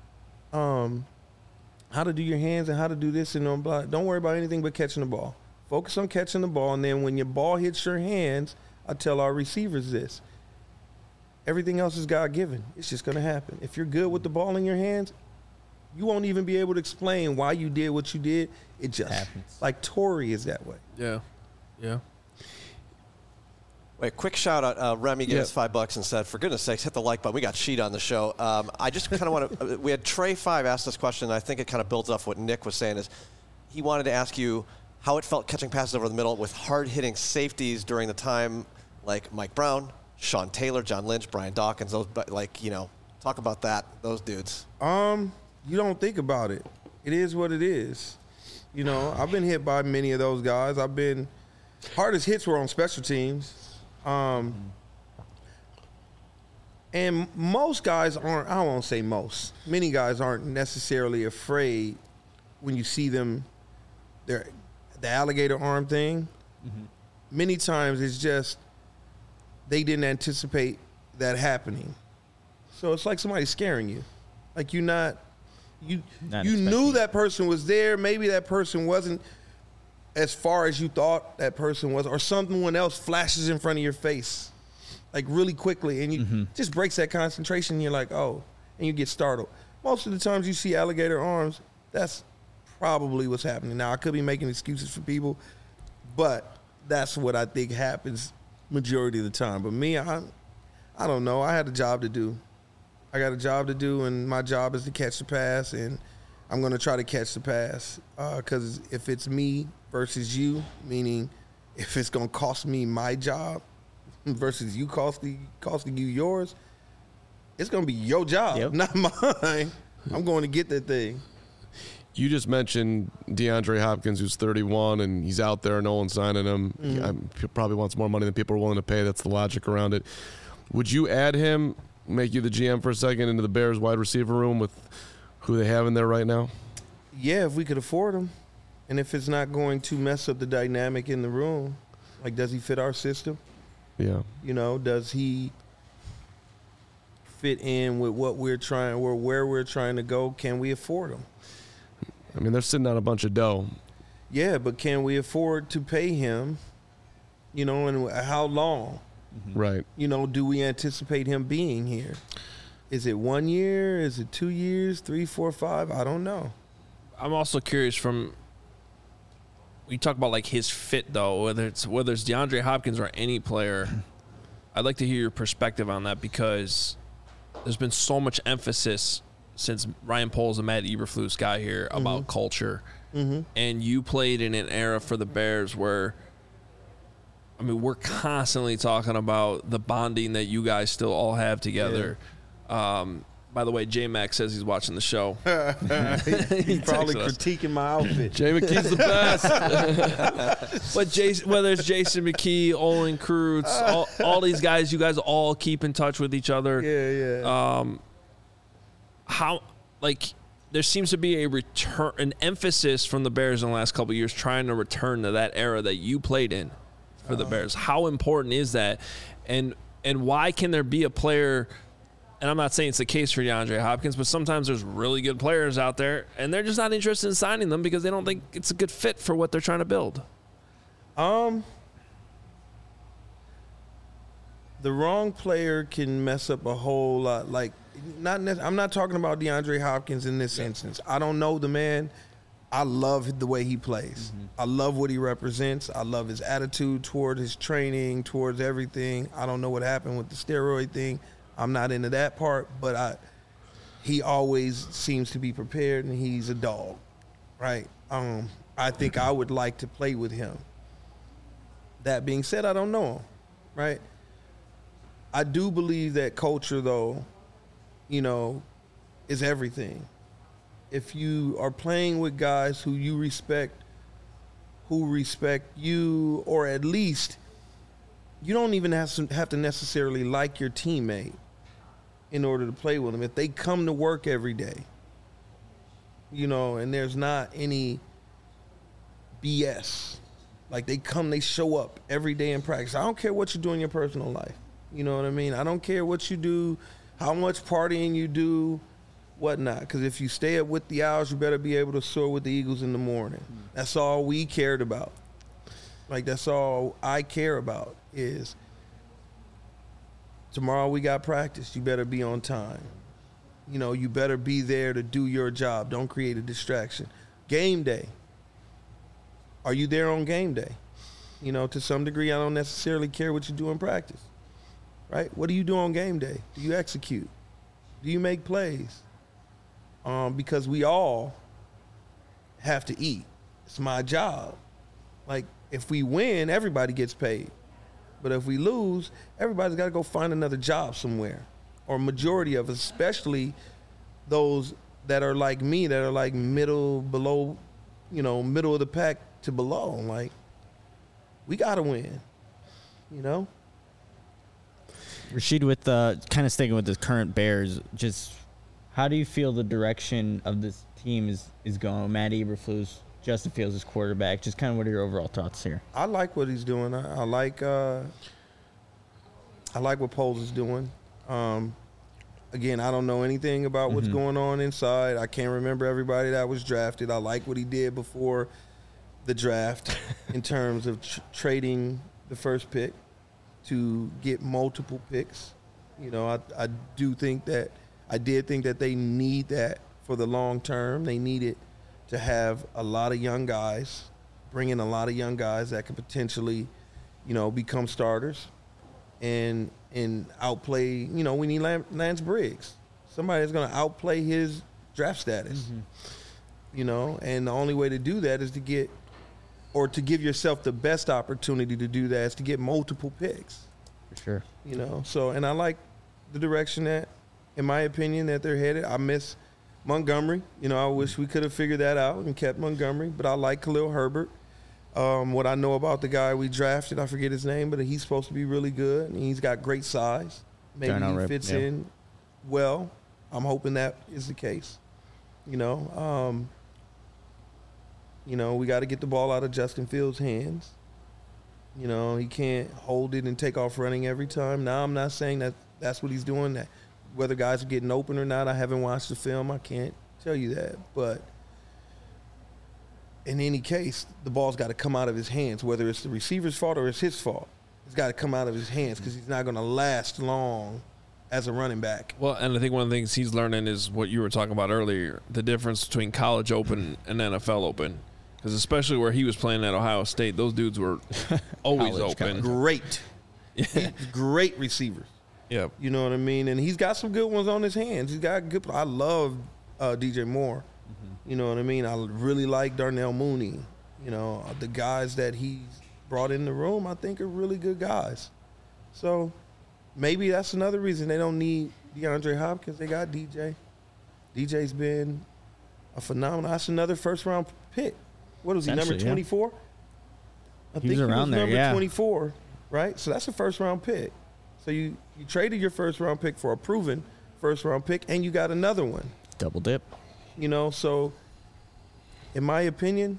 how to do your hands and how to do this and blah. Don't worry about anything but catching the ball. Focus on catching the ball, and then when your ball hits your hands, I tell our receivers this: everything else is God-given. It's just going to happen. If you're good with the ball in your hands, you won't even be able to explain why you did what you did. It just happens. Like Torrey is that way. Yeah. Wait, quick shout out. Remy gave us $5 and said, for goodness sakes, hit the like button. We got Sheet on the show. I just kind of want to, we had Trey 5 ask this question, and I think it kind of builds off what Nick was saying, is he wanted to ask you how it felt catching passes over the middle with hard-hitting safeties during the time, like Mike Brown, Sean Taylor, John Lynch, Brian Dawkins, those, talk about that, those dudes. You don't think about it. It is what it is. I've been hit by many of those guys. Hardest hits were on special teams. And most guys aren't, I won't say most, many guys aren't necessarily afraid when you see them, the alligator arm thing. Many times it's just they didn't anticipate that happening. So it's like somebody scaring you. Like you knew that person was there. Maybe that person wasn't as far as you thought that person was, or someone else flashes in front of your face, like really quickly, and you just breaks that concentration, and you're like, oh, and you get startled. Most of the times you see alligator arms, that's probably what's happening. Now, I could be making excuses for people, but that's what I think happens majority of the time. But me, I don't know. I had a job to do. I got a job to do, and my job is to catch the pass, and I'm going to try to catch the pass, because if it's me versus you, meaning if it's going to cost me my job versus you costing you yours, it's going to be your job, not mine. I'm going to get that thing. You just mentioned DeAndre Hopkins, who's 31, and he's out there. No one's signing him. He probably wants more money than people are willing to pay. That's the logic around it. Would you add him, make you the GM for a second, into the Bears wide receiver room with who they have in there right now? Yeah, if we could afford him. And if it's not going to mess up the dynamic in the room, like, does he fit our system? Yeah. Does he fit in with what we're trying, or where we're trying to go? Can we afford him? I mean, they're sitting on a bunch of dough. Yeah, but can we afford to pay him, and how long? Right. Do we anticipate him being here? Is it 1 year? Is it 2 years? 3, 4, 5? I don't know. I'm also curious from you talk about like his fit though, whether it's DeAndre Hopkins or any player, I'd like to hear your perspective on that, because there's been so much emphasis since Ryan Poles and Matt Eberflus got here about culture. And you played in an era for the Bears where, I mean, we're constantly talking about the bonding that you guys still all have together. By the way, J-Mac says he's watching the show. He's probably critiquing my outfit. Jay McKee's the best. But whether it's Jason McKee, Olin Kreutz, all these guys, you guys all keep in touch with each other. How, like, there seems to be an emphasis from the Bears in the last couple of years trying to return to that era that you played in for the Bears. How important is that? And why can there be a player, and I'm not saying it's the case for DeAndre Hopkins, but sometimes there's really good players out there, and they're just not interested in signing them because they don't think it's a good fit for what they're trying to build. The wrong player can mess up a whole lot. Like, I'm not talking about DeAndre Hopkins in this instance. I don't know the man. I love the way he plays. I love what he represents. I love his attitude toward his training, towards everything. I don't know what happened with the steroid thing. I'm not into that part, but he always seems to be prepared, and he's a dog, right? I think I would like to play with him. That being said, I don't know him, right? I do believe that culture, though, is everything. If you are playing with guys who you respect, who respect you, or at least you don't even have to necessarily like your teammate in order to play with them. If they come to work every day, and there's not any BS, like they show up every day in practice. I don't care what you do in your personal life. You know what I mean? I don't care what you do, how much partying you do, whatnot. Because if you stay up with the Owls, you better be able to soar with the Eagles in the morning. That's all we cared about. Like, that's all I care about is tomorrow we got practice. You better be on time. You better be there to do your job. Don't create a distraction. Game day. Are you there on game day? To some degree, I don't necessarily care what you do in practice. Right? What do you do on game day? Do you execute? Do you make plays? Because we all have to eat. It's my job. Like, if we win, everybody gets paid. But if we lose, everybody's got to go find another job somewhere. Or majority of us, especially those that are like me, that are like middle of the pack to below. Like, we got to win, Rasheed, with kind of sticking with the current Bears, just how do you feel the direction of this team is going? Matt Eberflus, Justin Fields as quarterback. Just kind of what are your overall thoughts here? I like what he's doing. I like what Poles is doing. Again, I don't know anything about what's going on inside. I can't remember everybody that was drafted. I like what he did before the draft in terms of trading the first pick to get multiple picks. I did think that they need that for the long term. They needed to have a lot of young guys, bring in a lot of young guys that could potentially, become starters and outplay, we need Lance Briggs. Somebody that's going to outplay his draft status, and the only way to do that is to give yourself the best opportunity to do that is to get multiple picks. For sure. So, and I like the direction that, in my opinion, that they're headed. I miss Montgomery. I wish we could have figured that out and kept Montgomery, but I like Khalil Herbert. What I know about the guy we drafted, I forget his name, but he's supposed to be really good. And he's got great size. Maybe he fits in well. I'm hoping that is the case. We got to get the ball out of Justin Fields' hands. He can't hold it and take off running every time. Now, I'm not saying that that's what he's doing. That whether guys are getting open or not, I haven't watched the film. I can't tell you that. But in any case, the ball's got to come out of his hands, whether it's the receiver's fault or it's his fault. It's got to come out of his hands because he's not going to last long as a running back. Well, and I think one of the things he's learning is what you were talking about earlier, the difference between college open and NFL open. Because especially where he was playing at Ohio State, those dudes were always College, open. Great. Great receivers. Yeah. You know what I mean? And he's got some good ones on his hands. He's got good. I love DJ Moore. You know what I mean? I really like Darnell Mooney. You know, the guys that he's brought in the room, I think are really good guys. So maybe that's another reason they don't need DeAndre Hopkins. They got DJ. DJ's been a phenomenal. That's another first-round pick. What was he, number 24? I think he was around there, number yeah. 24, right? So that's a first-round pick. So you traded your first-round pick for a proven first-round pick, and you got another one. Double dip. You know, so in my opinion,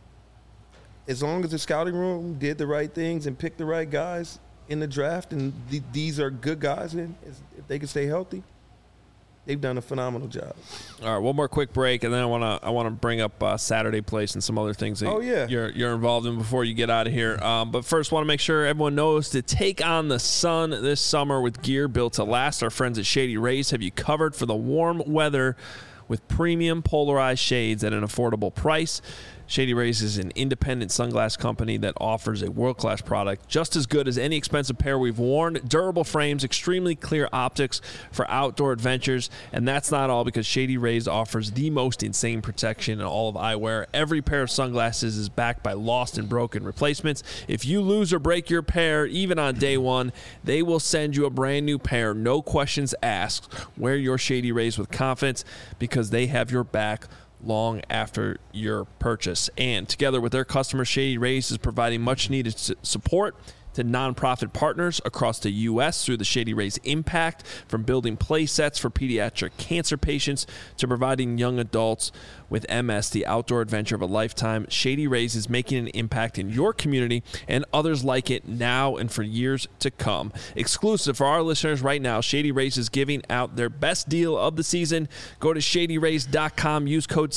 as long as the scouting room did the right things and picked the right guys in the draft, and these are good guys, and if they can stay healthy, they've done a phenomenal job. All right, one more quick break, and then I want to bring up Saturday Place and some other things that you're involved in before you get out of here. But first, want to make sure everyone knows to take on the sun this summer with gear built to last. Our friends at Shady Rays have you covered for the warm weather with premium polarized shades at an affordable price. Shady Rays is an independent sunglass company that offers a world-class product just as good as any expensive pair we've worn. Durable frames, extremely clear optics for outdoor adventures, and that's not all because Shady Rays offers the most insane protection in all of eyewear. Every pair of sunglasses is backed by lost and broken replacements. If you lose or break your pair, even on day one, they will send you a brand new pair, no questions asked. Wear your Shady Rays with confidence because they have your back long after your purchase. And together with their customers, Shady Rays is providing much needed support to nonprofit partners across the U.S. through the Shady Rays Impact, from building play sets for pediatric cancer patients to providing young adults with MS the outdoor adventure of a lifetime. Shady Rays is making an impact in your community and others like it now and for years to come. Exclusive for our listeners right now, Shady Rays is giving out their best deal of the season. Go to ShadyRays.com, use code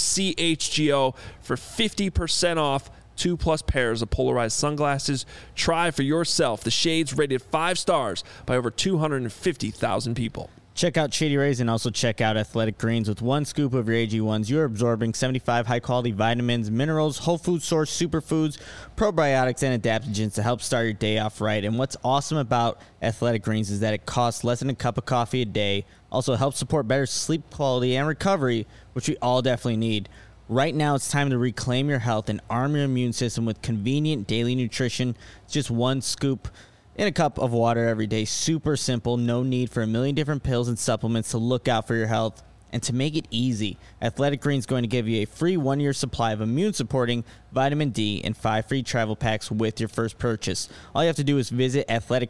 CHGO for 50% off 2+ pairs of polarized sunglasses. Try for yourself the shades rated 5 stars by over 250,000 people. Check out Shady Rays and also check out Athletic Greens. With one scoop of your AG1s, you're absorbing 75 high-quality vitamins, minerals, whole food source superfoods, probiotics, and adaptogens to help start your day off right. And what's awesome about Athletic Greens is that it costs less than a cup of coffee a day. Also helps support better sleep quality and recovery, which we all definitely need. Right now, it's time to reclaim your health and arm your immune system with convenient daily nutrition. It's just one scoop in a cup of water every day. Super simple. No need for a million different pills and supplements to look out for your health. And to make it easy, Athletic Greens is going to give you a free 1-year supply of immune-supporting vitamin D and 5 free travel packs with your first purchase. All you have to do is visit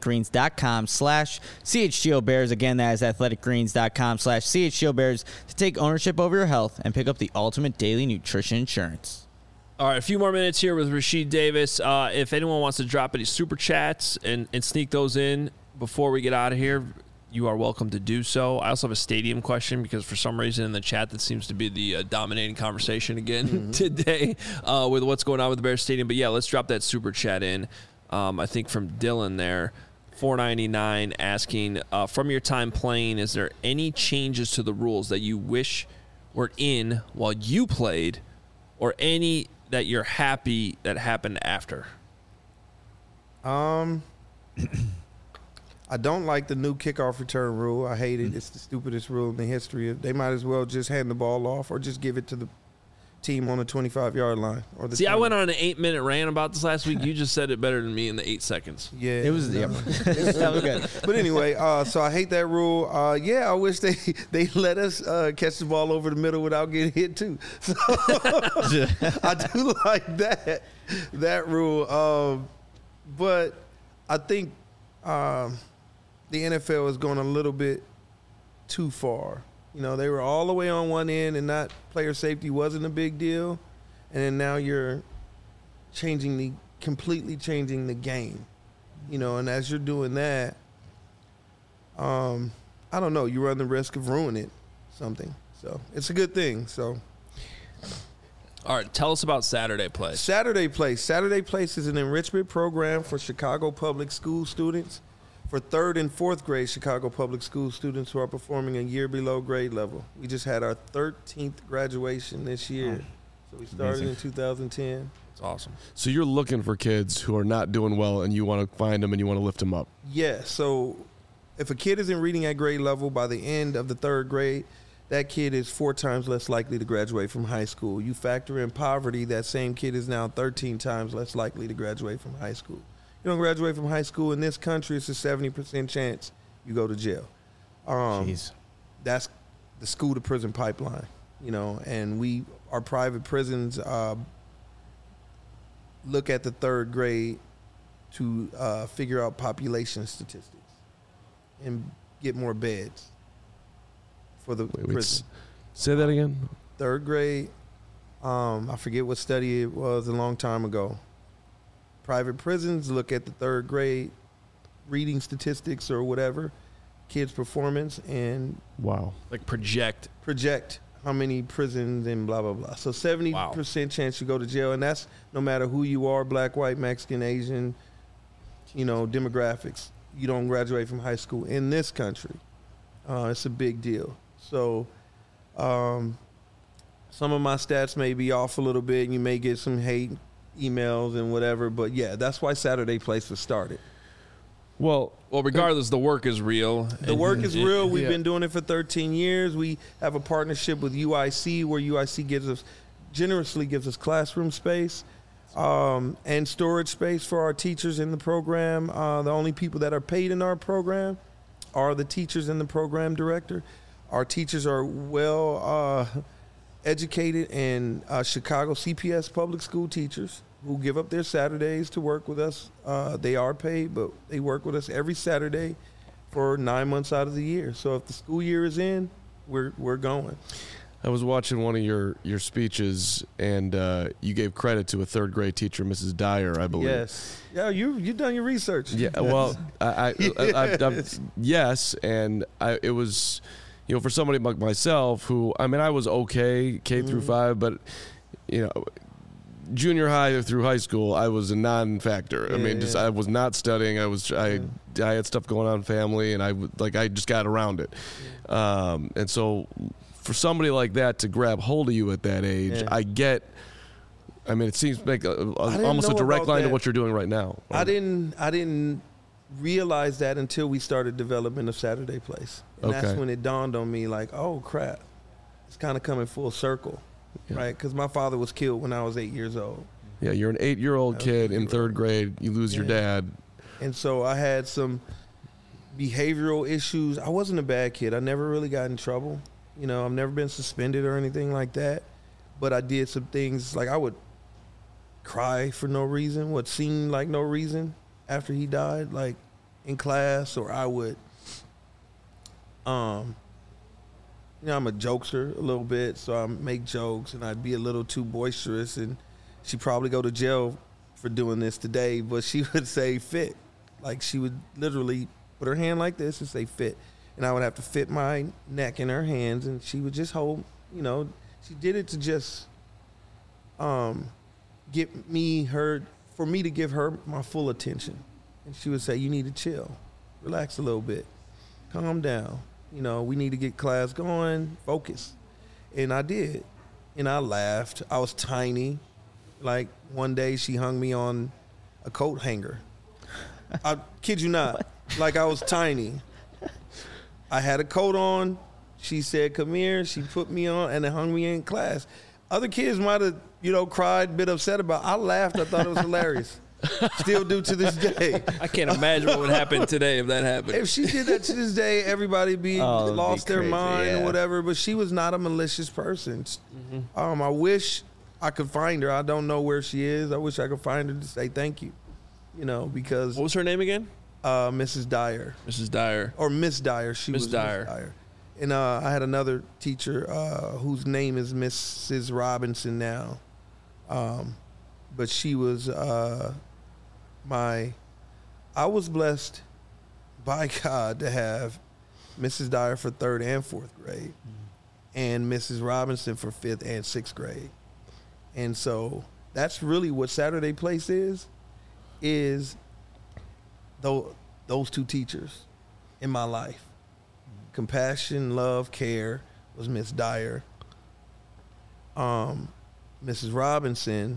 athleticgreens.com/CHGOBears. Again, that is athleticgreens.com/CHGOBears to take ownership over your health and pick up the ultimate daily nutrition insurance. All right, a few more minutes here with Rasheed Davis. If anyone wants to drop any super chats and sneak those in before we get out of here, you are welcome to do so. I also have a stadium question because for some reason in the chat that seems to be the dominating conversation again today with what's going on with the Bears Stadium. But yeah, let's drop that super chat in. I think from Dylan there, $4.99, asking, from your time playing, is there any changes to the rules that you wish were in while you played, or any that you're happy that happened after? I don't like the new kickoff return rule. I hate it. It's the stupidest rule in the history. They might as well just hand the ball off or just give it to the team on the 25-yard line. Or the 20. I went on an 8-minute rant about this last week. You just said it better than me in the 8 seconds. Yeah. It was, that was good. But anyway, so I hate that rule. Yeah, I wish they let us catch the ball over the middle without getting hit too. So I do like that rule. But I think the NFL is going a little bit too far. You know, they were all the way on one end and not player safety wasn't a big deal. And then now you're completely changing the game. You know, and as you're doing that, I don't know, you run the risk of ruining something. So it's a good thing. So. All right, tell us about Saturday Place. Saturday Place is an enrichment program for Chicago public school students, for 3rd and 4th grade Chicago public school students who are performing a year below grade level. We just had our 13th graduation this year. So we started Amazing. in 2010. It's awesome. So you're looking for kids who are not doing well, and you want to find them and you want to lift them up. Yeah, so if a kid isn't reading at grade level by the end of the third grade, that kid is 4 times less likely to graduate from high school. You factor in poverty, that same kid is now 13 times less likely to graduate from high school. You don't graduate from high school in this country, it's a 70% chance you go to jail. Jeez. That's the school to prison pipeline, and our private prisons look at the third grade to figure out population statistics and get more beds for the prison. Say that again. Third grade, I forget what study it was a long time ago. Private prisons look at the third grade reading statistics or whatever, kids' performance, and Like project. how many prisons and blah, blah, blah. So 70% chance you go to jail, and that's no matter who you are, black, white, Mexican, Asian, demographics. You don't graduate from high school in this country. It's a big deal. So some of my stats may be off a little bit, and you may get some hate emails and whatever, but yeah, that's why Saturday Place was started. Well, Regardless, the work is real. The work is real. We've Yeah. been doing it for 13 years. We have a partnership with UIC where UIC generously gives us classroom space and storage space for our teachers in the program. The only people that are paid in our program are the teachers and the program director. Our teachers are well educated in Chicago CPS public school teachers who give up their Saturdays to work with us. They are paid, but they work with us every Saturday for 9 months out of the year. So if the school year is in, we're going. I was watching one of your speeches, and you gave credit to a third grade teacher, Mrs. Dyer, I believe. Yes. Yeah, you've done your research. Yeah. Well, yes, and it was, for somebody like myself who, I was okay K through 5, but junior high through high school, I was a non-factor. I was not studying. I had stuff going on in family, and I just got around it. And so for somebody like that to grab hold of you at that age, I get. It seems like almost a direct line to what you're doing right now. I didn't realize that until we started development of Saturday Place, and that's when it dawned on me, like, oh crap, it's kind of coming full circle. Yeah. Right, because my father was killed when I was 8 years old. Yeah, you're an 8-year-old kid in third grade. You lose your dad. And so I had some behavioral issues. I wasn't a bad kid. I never really got in trouble. I've never been suspended or anything like that. But I did some things, like I would cry for no reason, what seemed like no reason after he died, like in class, or I would I'm a jokester a little bit, so I make jokes, and I'd be a little too boisterous, and she'd probably go to jail for doing this today, but she would say fit. Like, she would literally put her hand like this and say fit, and I would have to fit my neck in her hands, and she would just hold, she did it to just get me for me to give her my full attention. And she would say, you need to chill, relax a little bit, calm down. We need to get class going, focus. And I did. And I laughed. I was tiny. Like, one day she hung me on a coat hanger. I kid you not. Like, I was tiny. I had a coat on. She said, come here. She put me on and then hung me in class. Other kids might have, cried, been upset about it. I laughed. I thought it was hilarious. Still do to this day. I can't imagine what would happen today if that happened. If she did that to this day, everybody lost their mind or whatever. But she was not a malicious person. Mm-hmm. I wish I could find her. I don't know where she is. I wish I could find her to say thank you. Because What was her name again? Mrs. Dyer. Mrs. Dyer. Or Miss Dyer. She was Dyer. Miss Dyer. And I had another teacher whose name is Mrs. Robinson now. But she was I was blessed by God to have Mrs. Dyer for 3rd and 4th grade and Mrs. Robinson for 5th and 6th grade. And so that's really what Saturday Place is those two teachers in my life. Compassion, love, care was Miss Dyer. Mrs. Robinson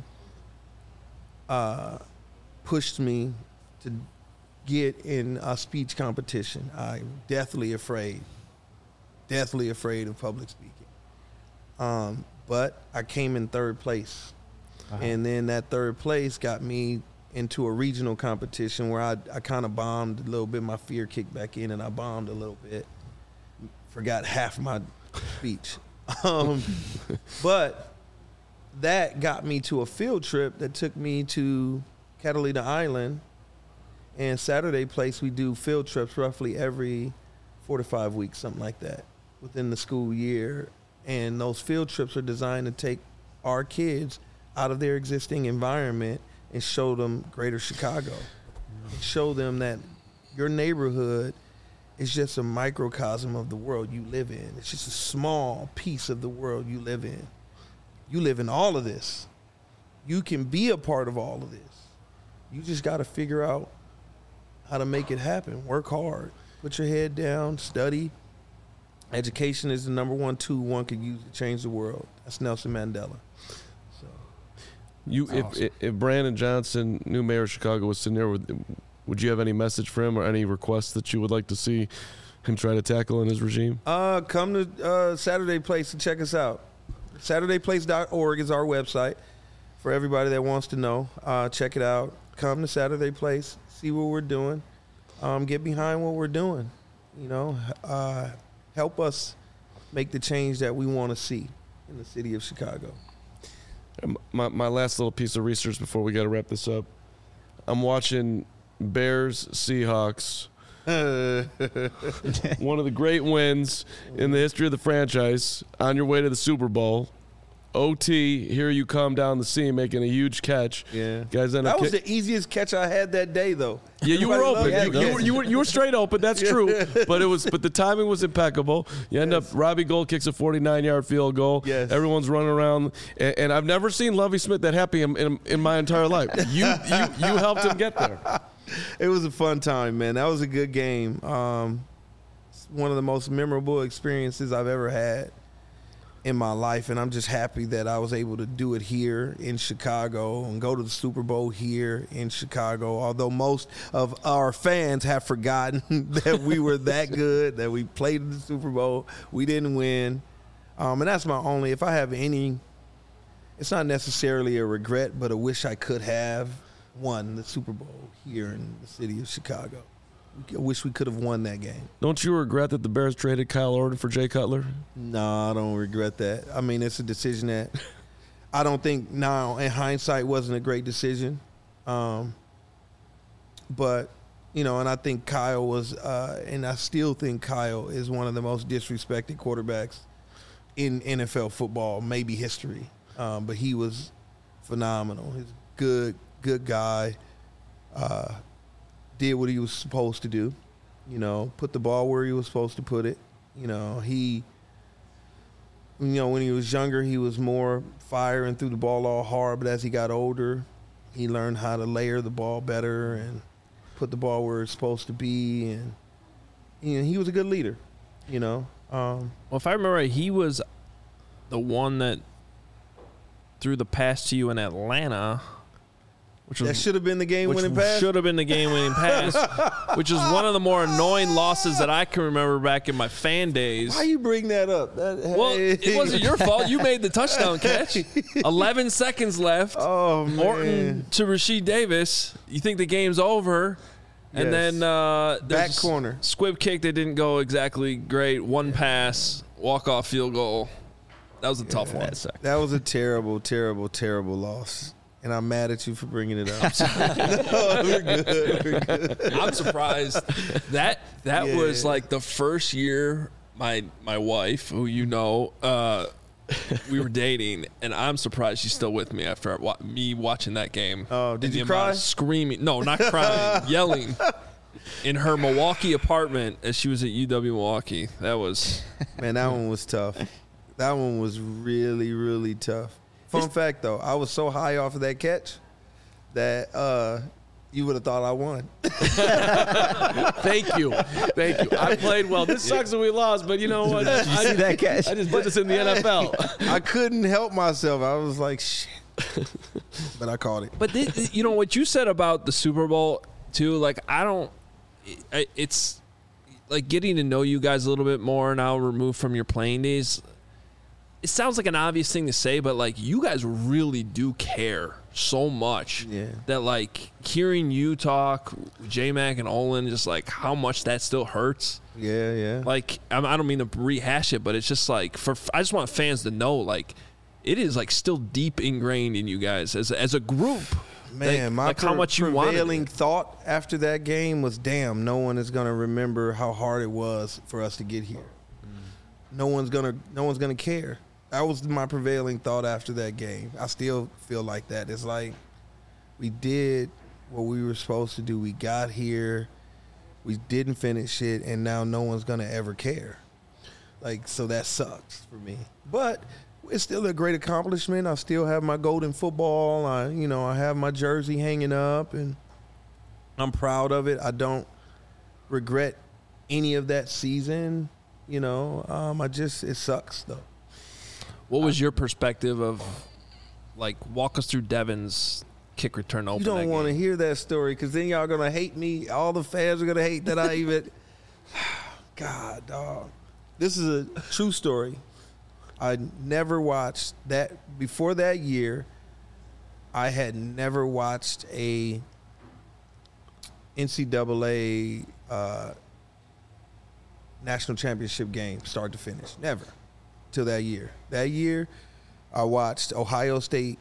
pushed me to get in a speech competition. I'm deathly afraid of public speaking. But I came in third place. And then that third place got me into a regional competition where I kind of bombed a little bit. My fear kicked back in and I bombed a little bit. Forgot half my speech. But that got me to a field trip that took me to Catalina Island. And Saturday Place, we do field trips roughly every 4 to 5 weeks, something like that, within the school year. And those field trips are designed to take our kids out of their existing environment and show them greater Chicago. And show them that your neighborhood is just a microcosm of the world you live in. It's just a small piece of the world you live in. You live in all of this. You can be a part of all of this. You just got to figure out how to make it happen. Work hard. Put your head down. Study. Education is the number one tool one could use to change the world. That's Nelson Mandela. If Brandon Johnson, new mayor of Chicago, was sitting there, would you have any message for him or any requests that you would like to see him try to tackle in his regime? Come to Saturday Place and check us out. SaturdayPlace.org is our website for everybody that wants to know. Check it out. Come to Saturday Place, see what we're doing, get behind what we're doing. You know, help us make the change that we want to see in the city of Chicago. My last little piece of research before we got to wrap this up. I'm watching Bears Seahawks. One of the great wins in the history of the franchise. On your way to the Super Bowl. OT, here you come down the seam making a huge catch. Yeah, guys. That was the easiest catch I had that day, though. Yeah, you were open. You were straight open. That's true. But the timing was impeccable. You end up Robbie Gould kicks a 49-yard field goal. Yes. Everyone's running around, and I've never seen Lovie Smith that happy in my entire life. You helped him get there. It was a fun time, man. That was a good game. One of the most memorable experiences I've ever had in my life, and I'm just happy that I was able to do it here in Chicago and go to the Super Bowl here in Chicago, although most of our fans have forgotten that we were that good, that we played in the Super Bowl. We didn't win. And that's my only, if I have any, it's not necessarily a regret, but a wish I could have won the Super Bowl here in the city of Chicago. I wish we could have won that game. Don't you regret that the Bears traded Kyle Orton for Jay Cutler? No, I don't regret that. I mean, it's a decision that I don't think now, in hindsight, wasn't a great decision. But, you know, and I think Kyle was, and I still think Kyle is one of the most disrespected quarterbacks in NFL football, maybe history. But he was phenomenal. He's a good guy. Did what he was supposed to do, you know, put the ball where he was supposed to put it. You know, when he was younger, he was more fire and threw the ball all hard. But as he got older, he learned how to layer the ball better and put the ball where it's supposed to be. And, you know, he was a good leader, you know. Well, if I remember right, he was the one that threw the pass to you in Atlanta. That should have been the game-winning pass? Should have been the game-winning pass, which is one of the more annoying losses that I can remember back in my fan days. Why you bring that up? Well, it wasn't your fault. You made the touchdown catch. 11 seconds left. Oh, man. Orton to Rasheed Davis. You think the game's over. And then back corner. Squib kick that didn't go exactly great. One pass, walk-off field goal. That was a tough one. That was a terrible, terrible, terrible loss. And I'm mad at you for bringing it up. No, we're good. I'm surprised. That was like the first year my wife, who you know, we were dating, and I'm surprised she's still with me after me watching that game. Oh, did you cry? Screaming. No, not crying. Yelling in her Milwaukee apartment as she was at UW Milwaukee. That was... Man, that one was tough. That one was really, really tough. Fun fact, though, I was so high off of that catch that You would have thought I won. Thank you. I played well. This sucks that we lost, but you know what? Did you see that catch? I just did this in the NFL. I couldn't help myself. I was like, shit. But I called it. But you know what you said about the Super Bowl too. Like it's like getting to know you guys a little bit more now, removed from your playing days. It sounds like an obvious thing to say, but like you guys really do care so much that like hearing you talk, J-Mac and Olin, just like how much that still hurts. Yeah. Like I don't mean to rehash it, but it's just like I just want fans to know like it is like still deep ingrained in you guys as a group. Man, my how much you prevailing thought after that game was, damn, no one is gonna remember how hard it was for us to get here. No one's gonna care. That was my prevailing thought after that game. I still feel like that. It's like we did what we were supposed to do. We got here, we didn't finish it, and now no one's gonna ever care. Like, so that sucks for me. But it's still a great accomplishment. I still have my golden football. I have my jersey hanging up, and I'm proud of it. I don't regret any of that season. It sucks though. What was your perspective of, like, walk us through Devin's kick return open? You don't want to hear that story because then y'all gonna hate me. All the fans are gonna hate that I even. God, dog. This is a true story. I never watched that before that year. I had never watched a NCAA national championship game start to finish. Never. Till that year. That year, I watched Ohio State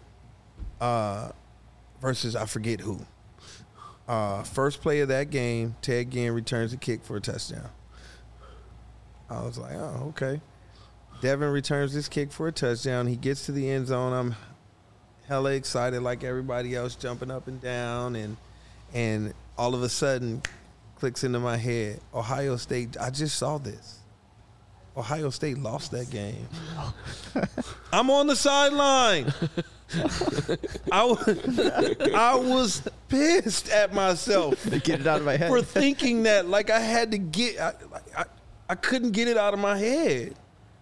versus I forget who. First play of that game, Ted Ginn returns a kick for a touchdown. I was like, oh, okay. Devin returns this kick for a touchdown. He gets to the end zone. I'm hella excited like everybody else, jumping up and down. And all of a sudden, clicks into my head, Ohio State, I just saw this. Ohio State lost that game. I'm on the sideline. I was pissed at myself. Get it out of my head. For thinking that, like, I had to get, I couldn't get it out of my head.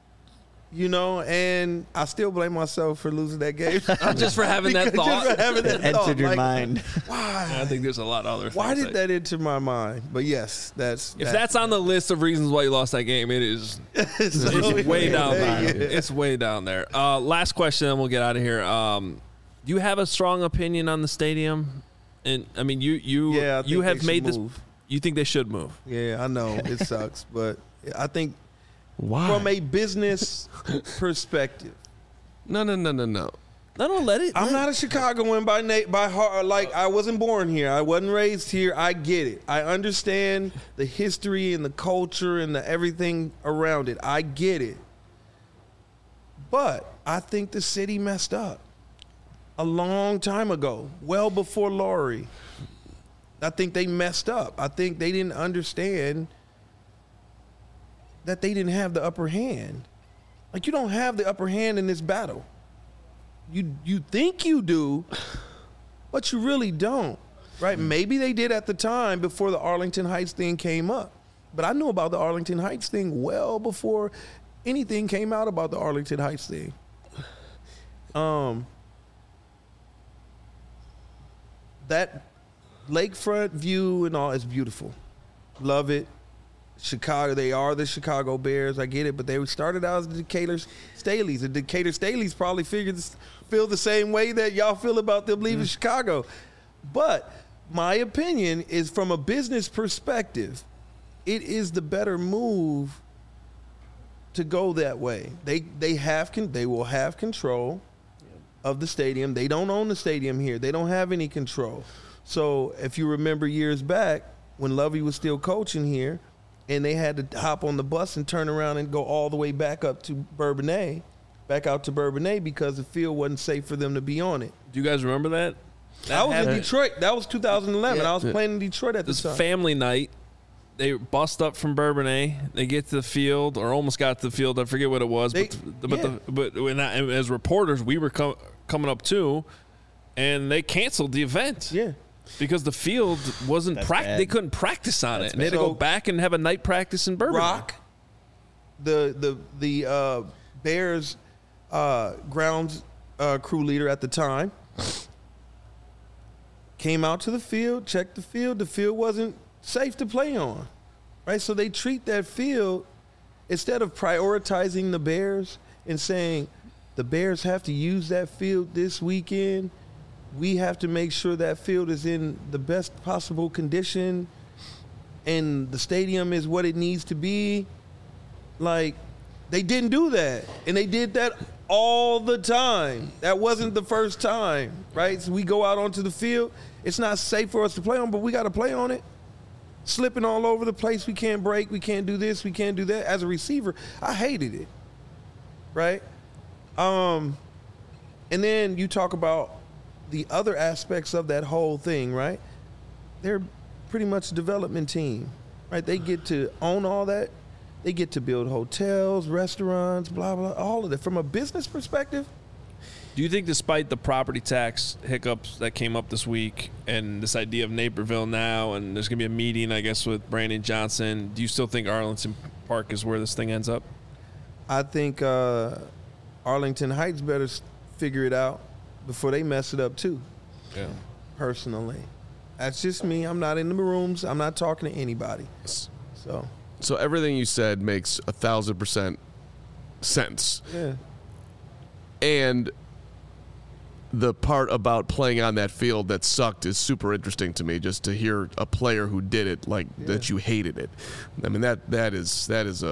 And I still blame myself for losing that game. Just for having that thought. Just for having that thought. Entered your mind. Why? I think there's a lot of other things. Why did that enter my mind? But yes, if that's on the list of reasons why you lost that game, it is. It's way down there. It's way down there. Last question, and we'll get out of here. Do you have a strong opinion on the stadium? And I mean, you have made this. You think they should move? Yeah, I know it sucks, but I think. Why? From a business perspective. No. No, let it. I'm not a Chicagoan by heart. Like, I wasn't born here. I wasn't raised here. I get it. I understand the history and the culture and the everything around it. I get it. But I think the city messed up a long time ago, well before Laurie. I think they messed up. I think they didn't understand that they didn't have the upper hand. Like, you don't have the upper hand in this battle. You think you do, but you really don't, right? Maybe they did at the time before the Arlington Heights thing came up. But I knew about the Arlington Heights thing well before anything came out about the Arlington Heights thing. That lakefront view and all is beautiful. Love it. Chicago, they are the Chicago Bears. I get it, but they started out as the Decatur Staleys. The Decatur Staleys probably feel the same way that y'all feel about them leaving Chicago. But my opinion is, from a business perspective, it is the better move to go that way. They will have control of the stadium. They don't own the stadium here. They don't have any control. So if you remember years back when Lovey was still coaching here, and they had to hop on the bus and turn around and go all the way back out to Bourbonnais because the field wasn't safe for them to be on it. Do you guys remember that? I was in Detroit. That was 2011. I was playing in Detroit at the time. This family night. They bust up from Bourbonnais. They get to the field, or almost got to the field. I forget what it was. But as reporters, we were coming up too, and they canceled the event. Yeah. Because the field wasn't bad. they couldn't practice on it. And they had to bad. go back and have a night practice in Bourbon. Rock, the Bears grounds crew leader at the time, came out to the field, checked the field. The field wasn't safe to play on, right? So they treat that field, instead of prioritizing the Bears and saying the Bears have to use that field this weekend, we have to make sure that field is in the best possible condition and the stadium is what it needs to be. Like, they didn't do that. And they did that all the time. That wasn't the first time, right? So we go out onto the field. It's not safe for us to play on, but we got to play on it. Slipping all over the place. We can't break. We can't do this. We can't do that. As a receiver, I hated it, right? And then you talk about the other aspects of that whole thing, right? They're pretty much a development team, right? They get to own all that. They get to build hotels, restaurants, blah, blah, all of that. From a business perspective, Do you think, despite the property tax hiccups that came up this week and this idea of Naperville now, and there's going to be a meeting, I guess, with Brandon Johnson, do you still think Arlington Park is where this thing ends up? I think Arlington Heights better figure it out before they mess it up too. Yeah. Personally, that's just me. I'm not in the rooms. I'm not talking to anybody. So everything you said makes 1,000% sense. yeah, And the part about playing on that field that sucked is super interesting to me, just to hear a player who did it that you hated it. I mean, that is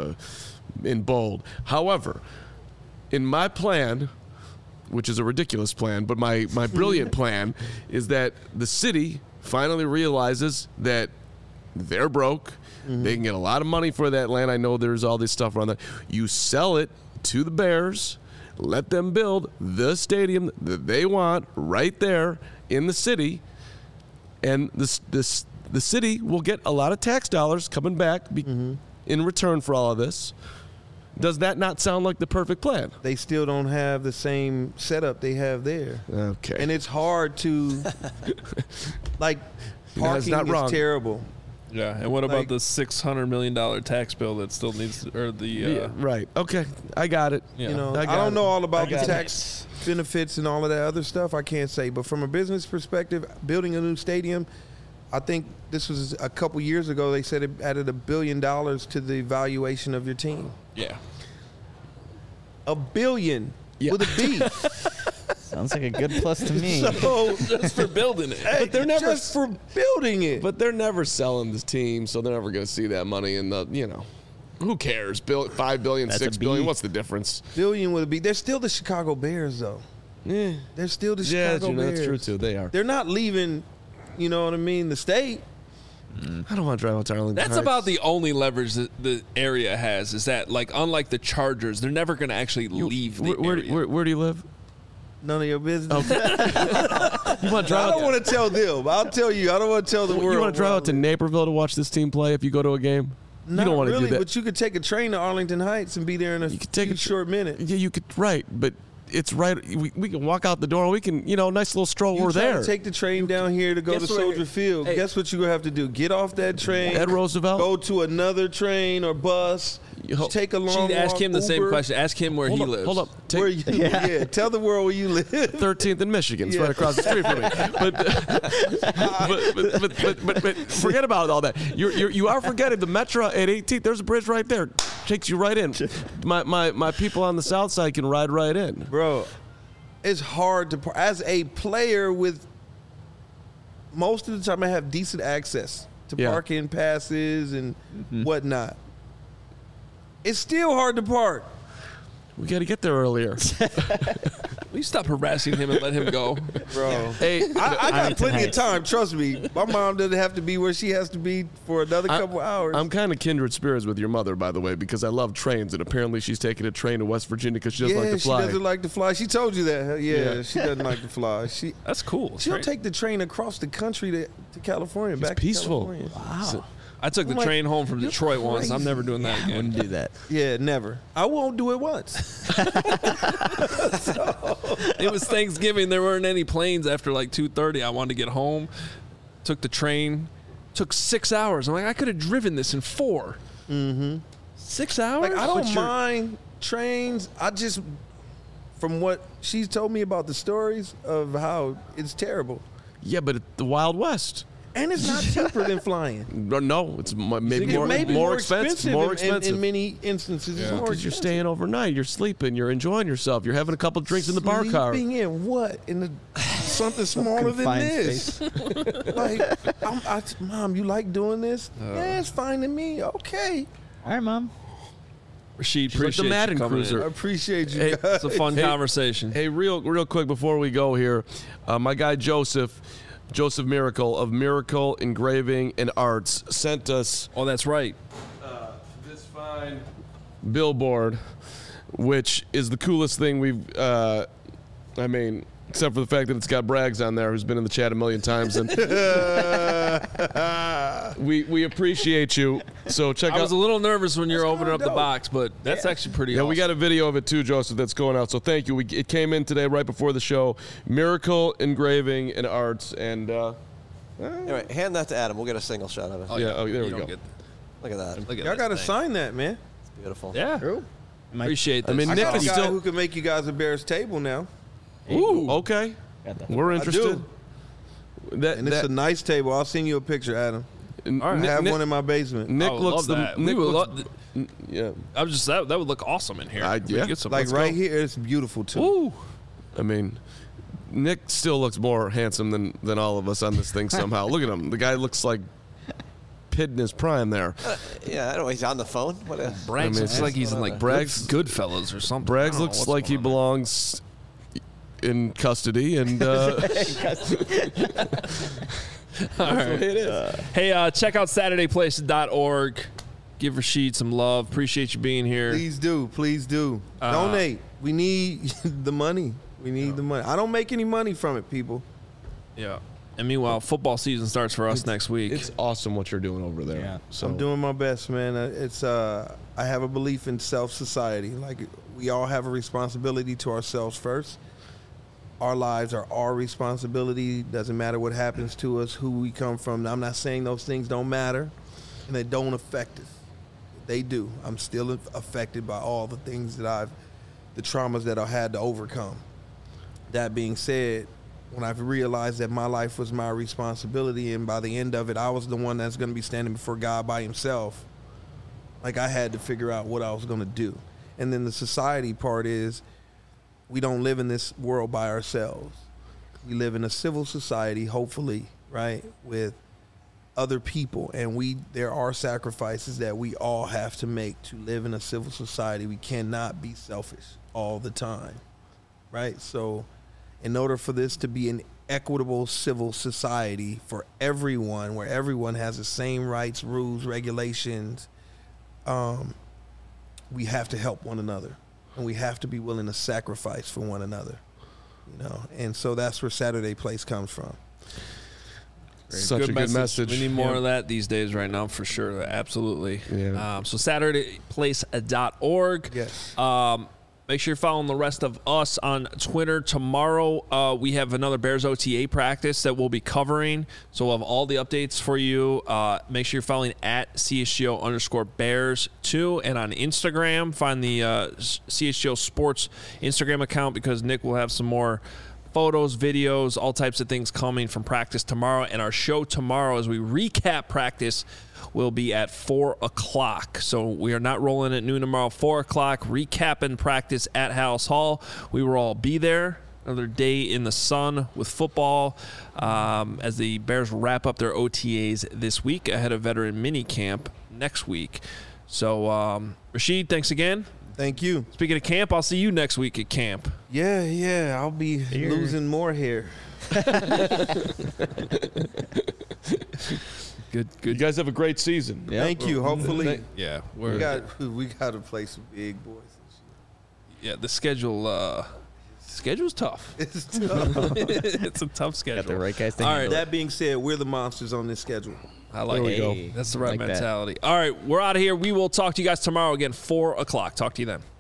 in bold. However, in my plan, which is a ridiculous plan, but my brilliant plan is that the city finally realizes that they're broke. Mm-hmm. They can get a lot of money for that land. I know there's all this stuff around that. You sell it to the Bears. Let them build the stadium that they want right there in the city, and the city will get a lot of tax dollars coming back in return for all of this. Does that not sound like the perfect plan? they still don't have the same setup they have there, Okay. and it's hard to like parking not is wrong. terrible. Yeah. And what about Like- the $600 million tax bill that still needs, or the, Yeah, right. Okay. I got it. yeah. You know, I I got don't it. know all about I the got it. tax benefits and all of that other stuff. I can't say, but from a business perspective, building a new stadium, I think this was a couple years ago. They said it added $1 billion to the valuation of your team. Yeah. $1 billion Yeah. with a B. Sounds like a good plus to me. So Just for building it. hey, they're never- just for building it. But they're never selling this team, so they're never going to see that money in the, who cares? $5 billion, That's a $6 billion, B. what's the difference? billion with a B. They're still the Chicago Bears, though. Yeah. They're still the Yeah, Chicago Bears. that's true, too. They are. They're not leaving, you know what I mean, the state. I don't want to drive out to Arlington That's Heights. about the only leverage that the area has, is that, like, unlike the Chargers, they're never going to actually leave the area. Where do you live? None of your business. You want to I drive don't want to tell them. I'll tell you. I don't want to tell the world. You want to drive where out to I live. Naperville to watch this team play if you go to a game? Not you don't want to really, do that. but you could take a train to Arlington Heights and be there in a You could take few a short minute. Yeah, you could. Right, but it's right. We can walk out the door. We can, nice little stroll. You We're try to there. take the train down here to go to Guess where- Soldier Field. Hey. Guess what you're gonna have to do? Get off that train. Ed Roosevelt. Go to another train or bus. Yo, Take a long She'd ask walk, him the same Uber. question. Ask him where he hold up, lives. hold up. Where Take you? Yeah. Tell the world where you live. 13th in Michigan. It's Yeah. right across the street from me. But forget about all that. You are forgetting the Metro at 18th. There's a bridge right there. Takes you right in. My people on the south side can ride right in. Bro, it's hard to as a player with most of the time I have decent access to Yeah. parking passes and whatnot. It's still hard to park. We got to get there earlier. Will you stop harassing him and let him go? Bro. Hey, I got Arlington plenty of Heights. time, trust me. My mom doesn't have to be where she has to be for another couple hours. I'm kind of kindred spirits with your mother, by the way, because I love trains, and apparently she's taking a train to West Virginia because she doesn't like to fly. she doesn't like to fly. She told you that. Yeah, Yeah. she doesn't like to fly. That's cool. She'll Right? take the train across the country to California. It's back peaceful. To California. So- I took the I'm like, train home from you're Detroit once. I'm crazy. never doing that again. Wouldn't do that. Yeah, never. I won't do it once. It was Thanksgiving. There weren't any planes after like 2:30. I wanted to get home. took the train. Took 6 hours. I'm like, I could have driven this in 4. Mm-hmm. 6 hours? Like, I don't mind trains. I just, from what she's told me about the stories of how it's terrible. Yeah, but the Wild West. And it's not cheaper than flying. No, it's maybe It more expensive. More expensive. In many instances, it's more Because you're expensive. staying overnight, you're sleeping, you're enjoying yourself, you're having a couple drinks in the bar car. Sleeping in what? In the something smaller than Confined this. Like, Mom, you like doing this? Yeah, it's fine to me. Okay. All right, Mom. Rashid, She's like the appreciate Madden you coming in. cruiser. I appreciate you Hey, guys. It's a fun conversation. Hey, real quick before we go here, my guy Joseph Miracle of Miracle Engraving and Arts sent us Oh, that's right. this fine billboard, which is the coolest thing we've. Except for the fact that it's got Braggs on there, who's been in the chat a million times, and we appreciate you. So check I out. was a little nervous when you're opening up the dope. box, but that's actually pretty Yeah, awesome. we got a video of it too, Joseph, that's going out. So thank you. It came in today right before the show. Miracle Engraving and Arts, and Anyway, hand that to Adam. We'll get a single shot of it. there we You go. don't get- Look at that. Look at Y'all this got to thing. sign that, man. It's beautiful. Yeah. Appreciate this. I mean, I Nick got a is guy still. who can make you guys a Bears table now. Ooh, okay. Got the We're interested. And it's a nice table. I'll send you a picture, Adam. All right. I have one in my basement. Nick I would looks love that. We would love- yeah. I was just that would look awesome in here. We yeah. get some- Like let's right go. here, it's beautiful too. Ooh. I mean, Nick still looks more handsome than all of us on this thing somehow. Look at him. The guy looks like Pitt in his prime there. Yeah, I don't know. He's on the phone. What? Braggs looks like he's in like Braggs- Goodfellas or something. I Braggs don't know looks what's like he going on. belongs in custody, and All right. Hey, check out SaturdayPlace.org. Give Rashid some love. Appreciate you being here. Please do. Please do. Donate. We need the money. We need the money. I don't make any money from it, people. Yeah. And meanwhile, football season starts for us next week. it's awesome what you're doing over there. Yeah. So I'm doing my best, man. I have a belief in self-society. Like, we all have a responsibility to ourselves first. Our lives are our responsibility. Doesn't matter what happens to us, who we come from. I'm not saying those things don't matter and they don't affect us. They do. I'm still affected by all the things that the traumas that I had to overcome. That being said, when I've realized that my life was my responsibility, and by the end of it, I was the one that's going to be standing before God by himself, like, I had to figure out what I was going to do. And then the society part is, we don't live in this world by ourselves. We live in a civil society, hopefully, right, with other people, and there are sacrifices that we all have to make to live in a civil society. We cannot be selfish all the time, right? So in order for this to be an equitable civil society for everyone, where everyone has the same rights, rules, regulations, we have to help one another, and we have to be willing to sacrifice for one another, you know. And so that's where Saturday Place comes from. such a good message. We need more of that these days right now, for sure. Absolutely. Yeah. So SaturdayPlace.org. Yes. Make sure you're following the rest of us on Twitter. Tomorrow, we have another Bears OTA practice that we'll be covering. So we'll have all the updates for you. Make sure you're following at CHGO_Bears too. And on Instagram, find the CHGO Sports Instagram account, because Nick will have some more photos, videos, all types of things coming from practice tomorrow. And our show tomorrow, as we recap practice, will be at 4 o'clock. So we are not rolling at noon tomorrow. 4 o'clock, recapping practice at House Hall. We will all be there. Another day in the sun with football, as the Bears wrap up their OTAs this week ahead of veteran mini camp next week. So, Rashid, thanks again. Thank you. Speaking of camp, I'll see you next week at camp. Yeah, I'll be losing more hair. Good. You guys have a great season. Thank you. Hopefully, Yeah, we got to play some big boys. yeah. The schedule's tough. It's tough. It's a tough schedule. Got the right guys to All right. handle it. That being said, we're the monsters on this schedule. I like There we it. go. Hey, That's the right like that. mentality. All right, we're out of here. We will talk to you guys tomorrow again, 4 o'clock. Talk to you then.